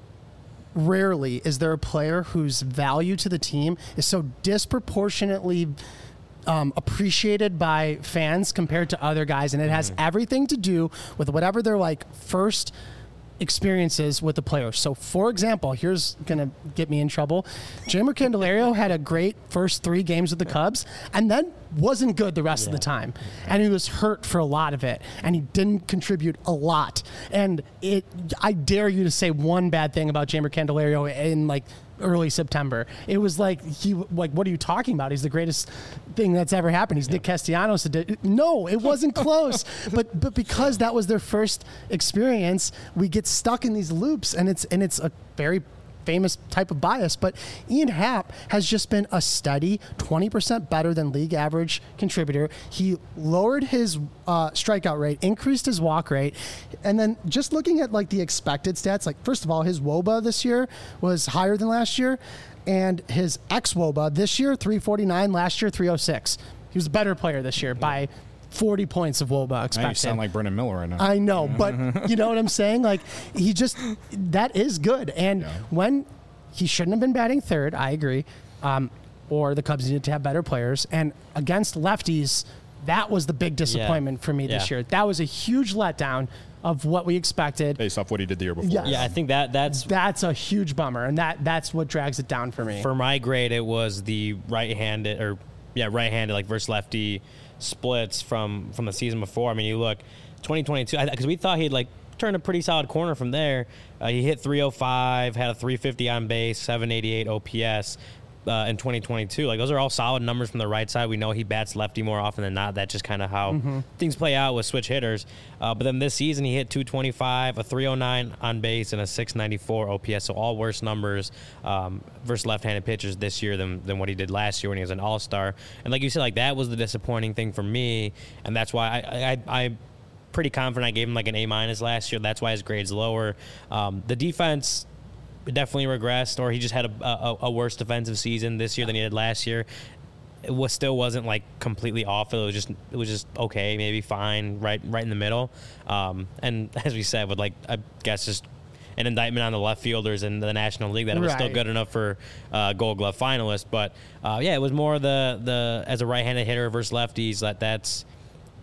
rarely is there a player whose value to the team is so disproportionately Um, appreciated by fans compared to other guys, and it has mm-hmm. everything to do with whatever their like first experiences with the player. So, for example, here's gonna get me in trouble. Jeimer Candelario had a great first three games with the Cubs, and then wasn't good the rest yeah. of the time, and he was hurt for a lot of it, and he didn't contribute a lot. And it, I dare you to say one bad thing about Jeimer Candelario in like early September. It was like, he like, what are you talking about? He's the greatest thing that's ever happened. He's yeah. Nick Castellanos. No, it wasn't close. but but because that was their first experience, we get stuck in these loops, and it's and it's a very famous type of bias. But Ian Happ has just been a steady twenty percent better than league average contributor. He lowered his uh, strikeout rate, increased his walk rate, and then just looking at like the expected stats, like first of all, his W O B A this year was higher than last year, and his ex-W O B A this year, three forty-nine, last year, three oh six. He was a better player this year by forty points of W O B A expected. Now you sound like Brendan Miller right now. I know, but you know what I'm saying? Like, he just, that is good. And yeah. when he shouldn't have been batting third, I agree, um, or the Cubs needed to have better players. And against lefties, that was the big disappointment yeah. for me this yeah. year. That was a huge letdown of what we expected. Based off what he did the year before. Yes. Yeah, I think that that's... That's a huge bummer, and that that's what drags it down for me. For my grade, it was the right-handed, or, yeah, right-handed, like, versus lefty splits from, from the season before. I mean, you look, twenty twenty-two, because we thought he'd, like, turned a pretty solid corner from there. Uh, he hit three oh five, had a three fifty on base, seven eighty-eight O P S uh, in twenty twenty-two. Like, those are all solid numbers from the right side. We know he bats lefty more often than not. That's just kind of how mm-hmm. things play out with switch hitters. Uh, but then this season, he hit two twenty-five, a three oh nine on base, and a six ninety-four O P S. So all worse numbers um, versus left-handed pitchers this year than, than what he did last year when he was an all-star. And like you said, like, that was the disappointing thing for me, and that's why I I, I pretty confident I gave him like an A minus last year. That's why his grade's lower. Um, the defense definitely regressed, or he just had a, a, a worse defensive season this year than he did last year. It was still wasn't like completely awful. It was just it was just okay, maybe fine, right right in the middle. Um, and as we said, with like I guess just an indictment on the left fielders in the National League that it was right. still good enough for uh, Gold Glove finalist. But uh, yeah, it was more the the as a right-handed hitter versus lefties that that's.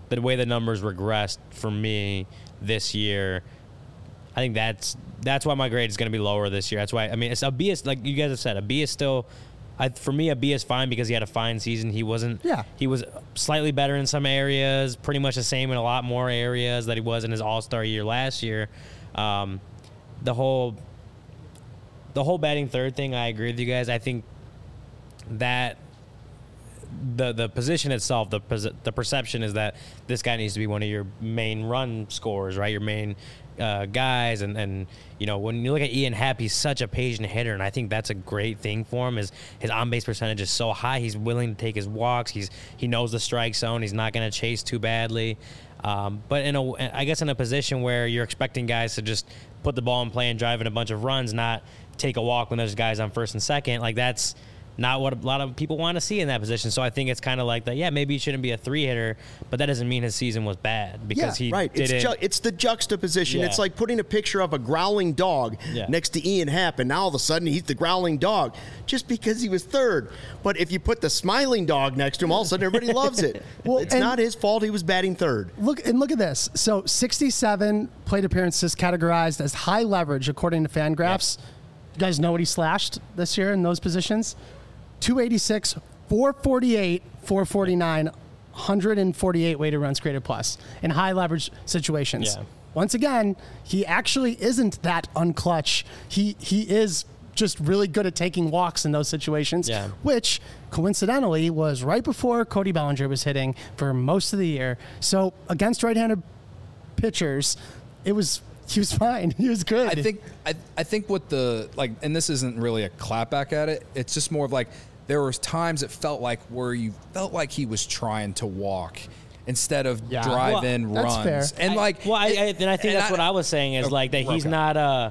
the way the numbers regressed for me this year, I think that's that's why my grade is going to be lower this year. That's why I mean, it's a B is like you guys have said, a B is still. I, for me, a B is fine because he had a fine season. He wasn't. Yeah. He was slightly better in some areas, pretty much the same in a lot more areas that he was in his All-Star year last year. Um, the whole, the whole batting third thing, I agree with you guys. I think that the the position itself, the the perception is that this guy needs to be one of your main run scorers, right? Your main uh, guys, and, and you know when you look at Ian Happ, he's such a patient hitter, and I think that's a great thing for him. Is his on base percentage is so high, he's willing to take his walks. He's he knows the strike zone. He's not going to chase too badly. Um, but in a, I guess in a position where you're expecting guys to just put the ball in play and drive in a bunch of runs, not take a walk when there's guys on first and second, like that's not what a lot of people want to see in that position. So I think it's kind of like that. Yeah, maybe he shouldn't be a three hitter, but that doesn't mean his season was bad because yeah, he right. didn't. It's, ju- it's the juxtaposition. Yeah. It's like putting a picture of a growling dog yeah. next to Ian Happ, and now all of a sudden he's the growling dog just because he was third. But if you put the smiling dog next to him, all of a sudden everybody loves it. Well, it's and- not his fault he was batting third. Look and look at this. So sixty-seven plate appearances categorized as high leverage according to Fangraphs. Yeah. You guys know what he slashed this year in those positions? two eighty-six, four forty-eight, four forty-nine, one forty-eight weighted runs created plus in high leverage situations. Yeah. Once again, he actually isn't that unclutch. He he is just really good at taking walks in those situations, Yeah. which coincidentally was right before Cody Bellinger was hitting for most of the year. So against right-handed pitchers, it was he was fine. He was good. I think I, I think what the like, and this isn't really a clapback at it. It's just more of like there was times it felt like where you felt like he was trying to walk instead of Yeah. drive in Well, runs. that's fair. And I- like, well, I, it- I, and I think and that's what I was saying is Okay, like that he's okay. not uh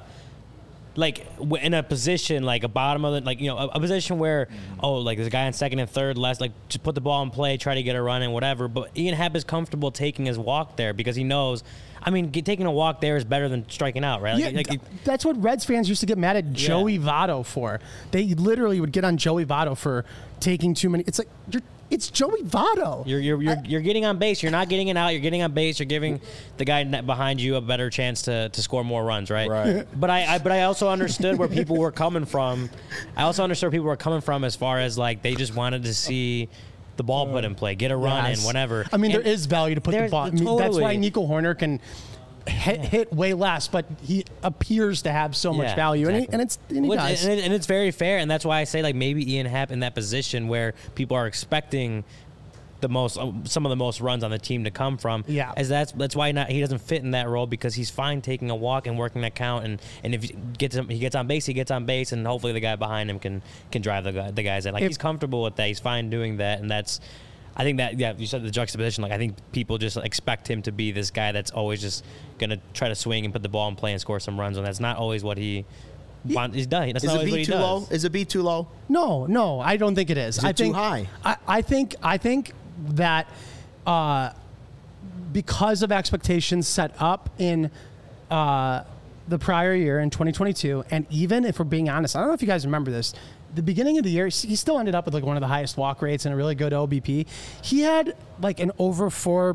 like w- in a position like a bottom of the like you know a, a position where oh like there's a guy in second and third last like just put the ball in play, try to get a run and whatever. But Ian Happ is comfortable taking his walk there because he knows. I mean, get, taking a walk there is better than striking out, right? Yeah, Like, like, th- that's what Reds fans used to get mad at Joey Votto for. They literally would get on Joey Votto for taking too many. It's like you're, it's Joey Votto. You're you're you're, you're getting on base. You're not getting it out. You're getting on base. You're giving the guy net behind you a better chance to, to score more runs, right? Right. But I, I but I also understood where people were coming from. I also understood where people were coming from as far as like they just wanted to see the ball put in play, get a run Yes. in, whatever. I mean, And there is value to put the there's- ball. I mean, That's why totally. Nico Horner can hit, hit way less, but he appears to have so much Yeah, value, and, he, exactly. and it's and he Which- does. and, it- and it's very fair, and that's why I say like maybe Ian Happ in that position where people are expecting the most, uh, some of the most runs on the team to come from. Yeah. as that's that's why not he doesn't fit in that role because he's fine taking a walk and working that count, and and if he gets he gets on base, he gets on base, and hopefully the guy behind him can can drive the guy, the guys in. Like If- he's comfortable with that. He's fine doing that, and that's. I think that, yeah, you said the juxtaposition. Like, I think people just expect him to be this guy that's always just going to try to swing and put the ball in play and score some runs, and that's not always what he wants. He's done. That's Is not a always what B he too does. low? Is a B too low? No, no, I don't think it is. Is it I too think, high? I, I think I think that uh, because of expectations set up in uh, the prior year in twenty twenty-two, and even if we're being honest, I don't know if you guys remember this. The beginning of the year, he still ended up with like one of the highest walk rates and a really good O B P. He had like an over four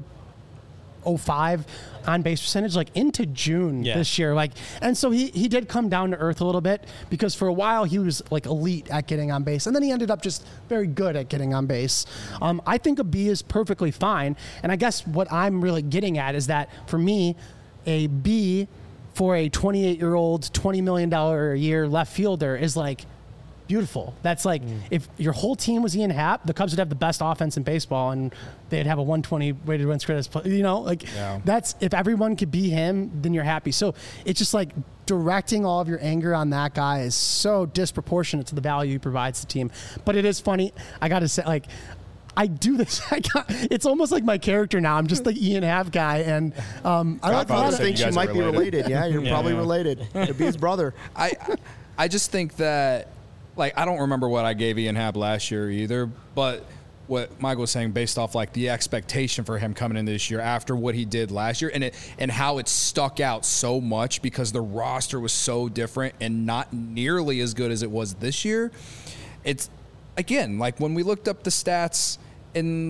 oh five on base percentage like into June Yeah. this year. Like, and so he he did come down to earth a little bit because for a while he was like elite at getting on base, and then he ended up just very good at getting on base. Um, I think a B is perfectly fine, and I guess what I'm really getting at is that for me, a B for a twenty-eight year old, twenty million dollars a year left fielder is like beautiful. That's like if your whole team was Ian Happ, the Cubs would have the best offense in baseball, and they'd have a one twenty weighted runs created. You know, like Yeah. that's if everyone could be him, then you're happy. So it's just like directing all of your anger on that guy is so disproportionate to the value he provides the team. But it is funny. I got to say, like. I do this. I got, it's almost like my character now. I'm just the Ian Happ guy, and um, I like a Godfather lot I of said think you she guys might are be related. related. Yeah, you're Yeah. probably related. Could be his brother. I I just think that like I don't remember what I gave Ian Happ last year either, but what Michael was saying based off like the expectation for him coming in this year after what he did last year and it and how it stuck out so much because the roster was so different and not nearly as good as it was this year. It's again like when we looked up the stats in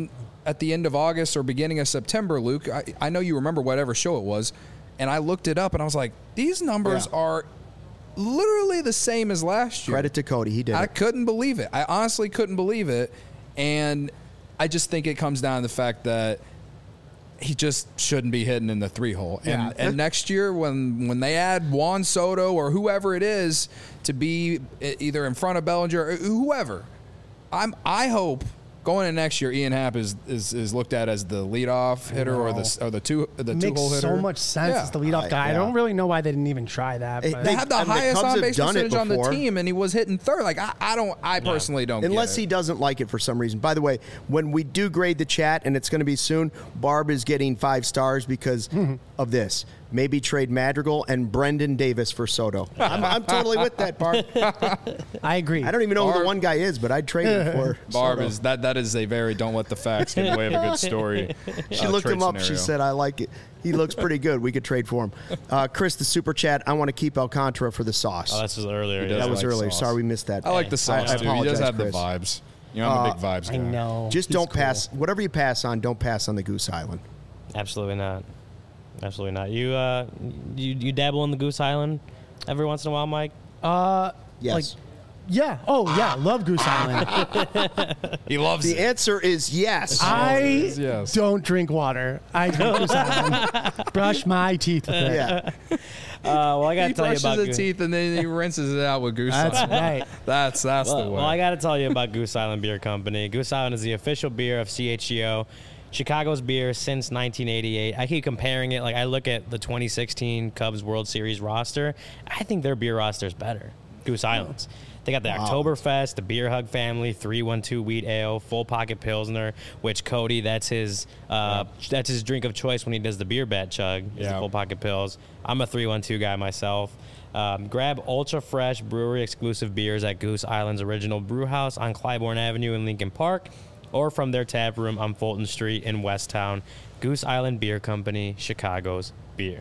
at the end of August or beginning of September, Luke. I, I know you remember whatever show it was, and I looked it up and I was like, these numbers Yeah. are literally the same as last year. Credit to Cody, he did I it. couldn't believe it. I honestly couldn't believe it, and I just think it comes down to the fact that he just shouldn't be hitting in the three hole. And Yeah. and next year when when they add Juan Soto or whoever it is to be either in front of Bellinger or whoever, I'm I hope going into next year Ian Happ is is, is looked at as the leadoff hitter or the or the two the two Makes hole hitter. so much sense Yeah. as the leadoff guy. I yeah. don't really know why they didn't even try that. Hey, But. They They- had the and the highest Cubs on have base done it percentage on the before. team, and he was hitting third. Like I, I don't, I personally don't. Unless get he it. doesn't like it for some reason. By the way, when we do grade the chat, and it's going to be soon, Barb is getting five stars because of this. Maybe trade Madrigal and Brendan Davis for Soto. I'm, I'm totally with that, Barb. I agree. I don't even know who Barb- the one guy is, but I'd trade him for Barb Soto. is that that is a very don't let the facts get in the way of a good story. She uh, looked trade him up. She scenario. said, I like it. He looks pretty good. We could trade for him. Uh, Chris, the super chat, I want to keep Alcantara for the sauce. Oh, this was earlier. He does yeah. that was like earlier. sauce. Sorry we missed that. I like the sauce I too. He apologize, does have Chris. the vibes. You know, I'm a big vibes guy. I know. Just He's don't cool. pass. Whatever you pass on, don't pass on the Goose Island. Absolutely not. Absolutely not. You uh, you you dabble in the Goose Island every once in a while, Mike? Uh, Yes. Like, yeah. Oh, yeah. Love Goose Island. He loves The it. answer is yes. I yes. don't drink water. I drink Goose Island. Brush my teeth with it. yeah. Uh, well, I got He to tell you brushes about his Goose. teeth and then he rinses it out with goose That's sauce. right. That's that's the Well, way. well, I got to tell you about Goose Island Beer Company. Goose Island is the official beer of C H G O, Chicago's beer since nineteen eighty-eight. I keep comparing it. Like, I look at the twenty sixteen Cubs World Series roster. I think their beer roster is better. Goose Island's. They got the Oktoberfest, the Beer Hug family, three one two Wheat Ale, Full Pocket Pilsner, which Cody, that's his uh, that's his drink of choice when he does the beer bat chug, is Yeah. the Full Pocket Pills. I'm a three one two guy myself. Um, grab ultra fresh brewery exclusive beers at Goose Island's original brew house on Clybourne Avenue in Lincoln Park, or from their tap room on Fulton Street in Westtown. Goose Island Beer Company, Chicago's beer.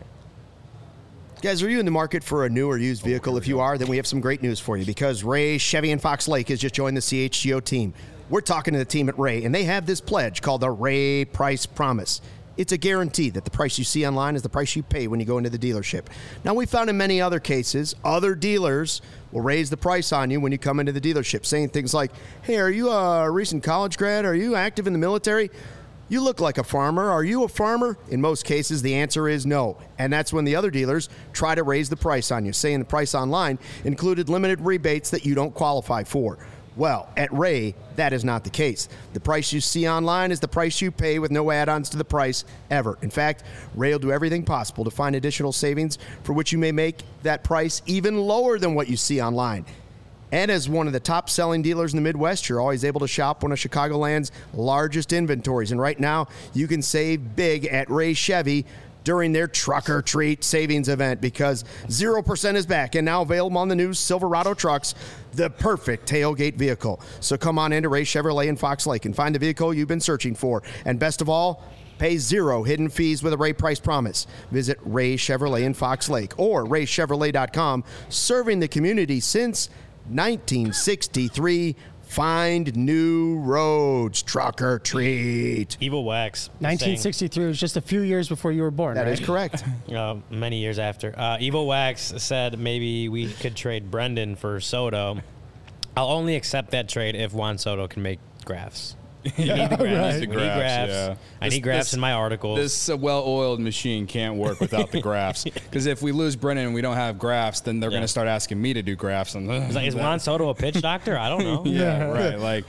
Guys, are you in the market for a new or used vehicle? If you are, then we have some great news for you because Ray Chevy in Fox Lake has just joined the C H G O team. We're talking to the team at Ray, and they have this pledge called the Ray Price Promise. It's a guarantee that the price you see online is the price you pay when you go into the dealership. Now, we found in many other cases, other dealers will raise the price on you when you come into the dealership, saying things like, hey, are you a recent college grad? Are you active in the military? You look like a farmer. Are you a farmer? In most cases, the answer is no. And that's when the other dealers try to raise the price on you, saying the price online included limited rebates that you don't qualify for. Well, at Ray, that is not the case. The price you see online is the price you pay with no add-ons to the price ever. In fact, Ray will do everything possible to find additional savings for which you may make that price even lower than what you see online. And as one of the top-selling dealers in the Midwest, you're always able to shop one of Chicagoland's largest inventories. And right now, you can save big at Ray Chevy during their Truck or Treat savings event because zero percent is back and now available on the new Silverado trucks, the perfect tailgate vehicle. So come on into Ray Chevrolet in Fox Lake and find the vehicle you've been searching for. And best of all, pay zero hidden fees with a Ray Price Promise. Visit Ray Chevrolet in Fox Lake or ray chevrolet dot com, serving the community since nineteen sixty-three. Find new roads. Truck or Treat. Evil Wax. nineteen saying- sixty-three was just a few years before you were born, That right? is correct. Uh, many years after. Uh, Evil Wax said maybe we could trade Brendan for Soto. I'll only accept that trade if Juan Soto can make graphs. We need the graphs. right. We The need graphs, graphs. yeah. I This- need graphs this- in my articles. This uh, well-oiled machine can't work without the graphs. Because if we lose Brennan and we don't have graphs, then they're Yeah. going to start asking me to do graphs. And It's like, is Juan Soto a pitch doctor? I don't know. yeah, right. Like,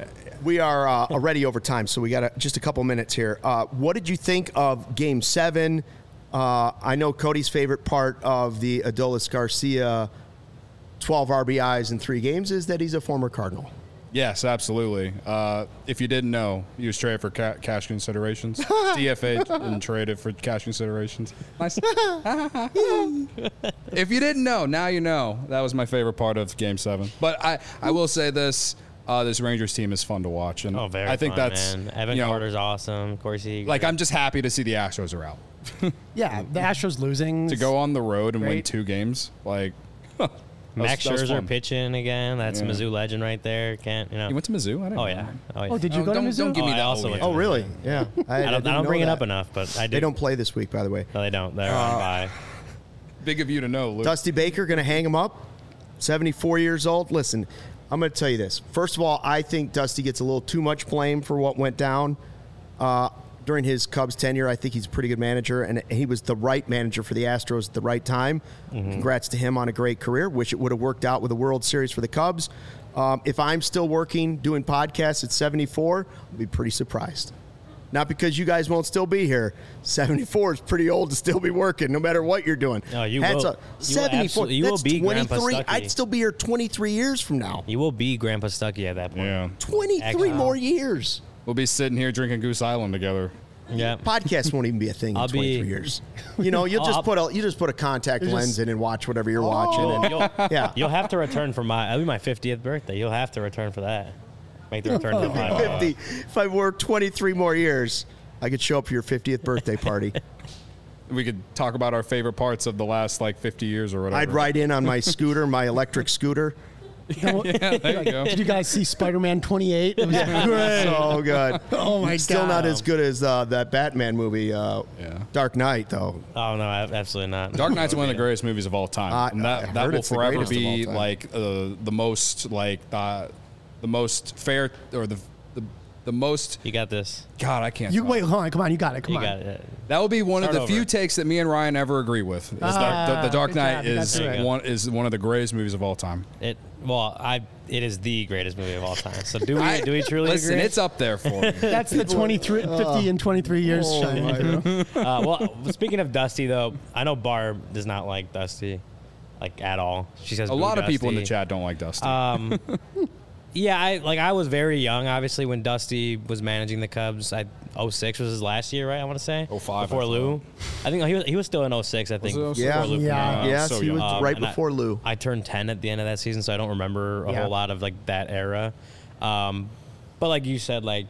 We are uh, already over time, so we got a, just a couple minutes here. Uh, what did you think of Game Seven? Uh, I know Cody's favorite part of the Adolis Garcia twelve R B Is in three games is that he's a former Cardinal. yes, absolutely. Uh, if you didn't know, he was traded for ca- cash considerations. D F A and traded for cash considerations. Nice. If you didn't know, now you know. That was my favorite part of Game Seven. But I, I will say this: uh, this Rangers team is fun to watch, and Oh, very I think fun, that's man. Evan you know, Carter's awesome. Corsi. like I'm just happy to see the Astros are out. Yeah, the Astros losing To go on the road and win Great. two games, like Max that was Scherzer fun. pitching again. That's Yeah. a Mizzou legend right there. Can't you know? You went to Mizzou? I didn't Oh know yeah. that. Oh, yeah. Oh, did you Oh, go to don't- Mizzou? don't give me Oh, I that. also Oh, went yeah. Oh, really? Yeah. I, I don't, I didn't don't know bring it that. up enough, but I do. They don't play this week, by the way. No, they don't. They're on bye. Big of you to know, Luke. Dusty Baker going to hang him up. seventy-four years old. Listen, I'm going to tell you this. First of all, I think Dusty gets a little too much blame for what went down uh, during his Cubs tenure. I think he's a pretty good manager, and he was the right manager for the Astros at the right time. Mm-hmm. Congrats to him on a great career. Wish it would have worked out with a World Series for the Cubs. Um, if I'm still working, doing podcasts at seventy-four, I'll be pretty surprised. Not because you guys won't still be here. seventy-four is pretty old to still be working, no matter what you're doing. No, you Hats will- up. you will seventy-four. absolutely- you will That's be Grandpa twenty-three. Stuckey. I'd still be here twenty-three years from now. You will be Grandpa Stuckey at that point. Yeah. twenty-three Actually. more years. We'll be sitting here drinking Goose Island together. Yeah. Podcast won't even be a thing I'll in twenty-three be- years. You know, you'll just I'll- put a you just put a contact You're lens just- in and watch whatever you're watching. And, You'll, yeah. you'll have to return for my. It'll be my fiftieth birthday. You'll have to return for that. Make the return to my. fifty. If I work twenty-three more years, I could show up for your fiftieth birthday party. We could talk about our favorite parts of the last like fifty years or whatever. I'd ride in on my scooter, my electric scooter. Yeah, there you go. Did you guys see Spider-Man twenty-eight? It was great. So good. Oh, my Still God. not as good as uh, that Batman movie, uh, Yeah. Dark Knight, though. Oh no, ab- absolutely not. Dark Knight's one of the greatest movies of all time. Uh, and I that that heard will it's the forever greatest of be all time. like uh, the most like the, the most fair or the the, the most. You got this. God, I can't. You talk. wait, hold on, come on, you got it, come You on. got it. That will be one Start of the few over. takes that me and Ryan ever agree with. Is Ah, the, the, the Dark good Knight job, you got is through it. one is one of the greatest movies of all time. It. Well, I. It is the greatest movie of all time. So do we? I- do we truly Listen, agree? it's up there for me. That's the twenty-three, fifty and twenty-three years Oh, shining my through. Uh, well, speaking of Dusty, though, I know Barb does not like Dusty, like at all. She says A "Boo, lot of people in the Dusty." chat don't like Dusty. Um, yeah, I like. I was very young, obviously, when Dusty was managing the Cubs. I oh six was his last year, right? I want to say oh five, before I Lou. I think he was he was still in oh six. I think it oh six? Yeah. before Lou Yeah. came out. yes, so he was young. Um, right and I- before Lou. I turned ten at the end of that season, so I don't remember a Yeah. whole lot of like that era. Um, but like you said, like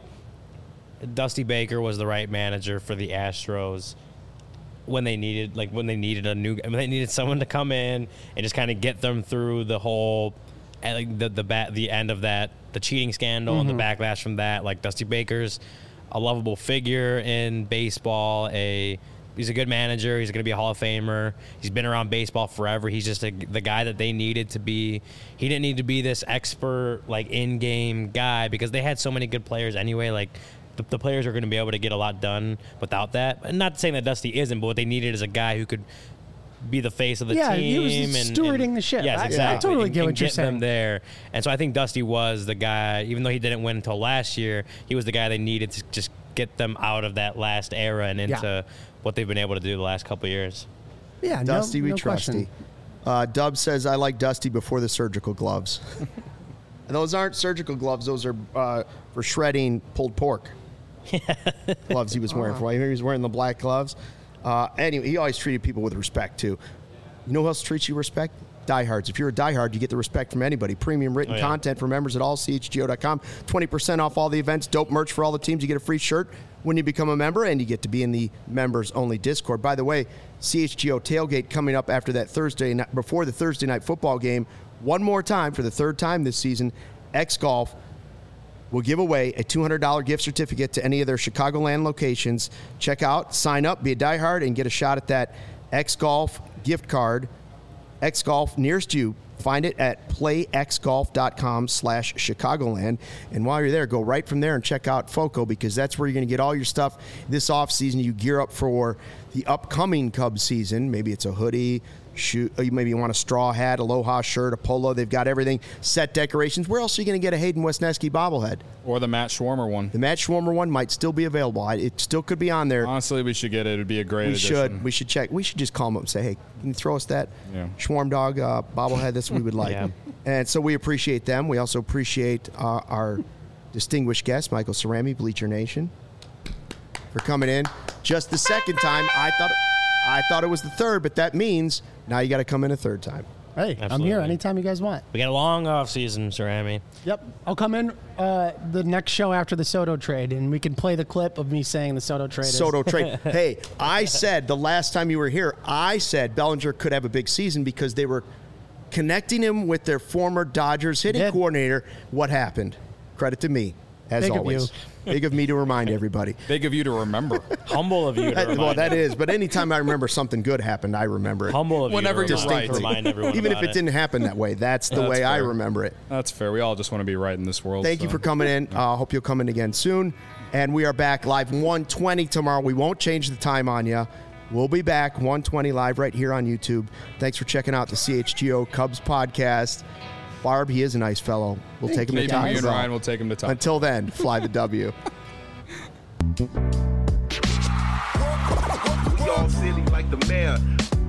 Dusty Baker was the right manager for the Astros when they needed, like when they needed a new, when they needed someone to come in and just kind of get them through the whole, and, like the the bat, the end of that, the cheating scandal Mm-hmm. and the backlash from that. Like Dusty Baker's a lovable figure in baseball. A He's a good manager. He's going to be a Hall of Famer. He's been around baseball forever. He's just a, the guy that they needed to be. He didn't need to be this expert, like, in-game guy because they had so many good players anyway. Like, the, the players are going to be able to get a lot done without that. And not saying that Dusty isn't, but what they needed is a guy who could be the face of the Yeah, team. he was and, stewarding and- the ship. Yes, I- I exactly. totally and, get and what you're get them saying. there. And so I think Dusty was the guy, even though he didn't win until last year, he was the guy they needed to just get them out of that last era and into Yeah. what they've been able to do the last couple of years. Yeah, Dusty, no, we no trusty. question. Uh, Dub says, I like Dusty before the surgical gloves. And those aren't surgical gloves. Those are uh, for shredding pulled pork. Gloves he was wearing. For he was wearing the black gloves. Uh, anyway, he always treated people with respect, too. You know who else treats you with respect? Diehards. If you're a diehard, you get the respect from anybody. Premium written Oh, yeah. content for members at all C H G O dot com. twenty percent off all the events. Dope merch for all the teams. You get a free shirt when you become a member, and you get to be in the members-only Discord. By the way, C H G O tailgate coming up after that Thursday night, before the Thursday night football game. One more time, for the third time this season, X Golf will give away a two hundred dollars gift certificate to any of their Chicagoland locations. Check out, sign up, be a diehard, and get a shot at that X Golf gift card. X Golf nearest you. Find it at playxgolf.com slash Chicagoland. And while you're there, go right from there and check out FOCO, because that's where you're going to get all your stuff this offseason. You gear up for the upcoming Cubs season. Maybe it's a hoodie, shoe, maybe you want a straw hat, Aloha shirt, a polo. They've got everything. Set decorations. Where else are you going to get a Hayden Wesneski bobblehead? Or the Matt Schwarmer one. The Matt Schwarmer one might still be available. I- It still could be on there. Honestly, we should get it. It'd be a great We addition. should. We should check. We should just call them up and say, hey, can you throw us that Yeah. Schwarm Dog uh, bobblehead? That's what we would like. Yeah. And so we appreciate them. We also appreciate uh, our distinguished guest, Michael Cerami, Bleacher Nation, for coming in. Just the second time. I thought I thought it was the third, but that means now you got to come in a third time. Hey, I'm Absolutely. here anytime you guys want. We got a long off season, Cerami. Yep. I'll come in uh, the next show after the Soto trade, and we can play the clip of me saying the Soto trade is. Soto trade. Hey, I said the last time you were here, I said Bellinger could have a big season because they were connecting him with their former Dodgers hitting Did. coordinator. What happened? Credit to me, as Big of always. you. Big of me to remind everybody. Big of you to remember. Humble of you to That- remind well, that them. is. But anytime I remember something good happened, I remember it. Humble of Whenever you to you're remind, right. to remind everyone Even if about it didn't happen that way, that's the That's way I fair. remember it. That's fair. We all just want to be right in this world. Thank you so. for coming in. I uh, hope you'll come in again soon. And we are back live one twenty tomorrow. We won't change the time on you. We'll be back one twenty live right here on YouTube. Thanks for checking out the C H G O Cubs podcast. Barb, he is a nice fellow. We'll take him Maybe to me and time. Ryan will take him to top. Until then, fly the W. We all silly like the mayor.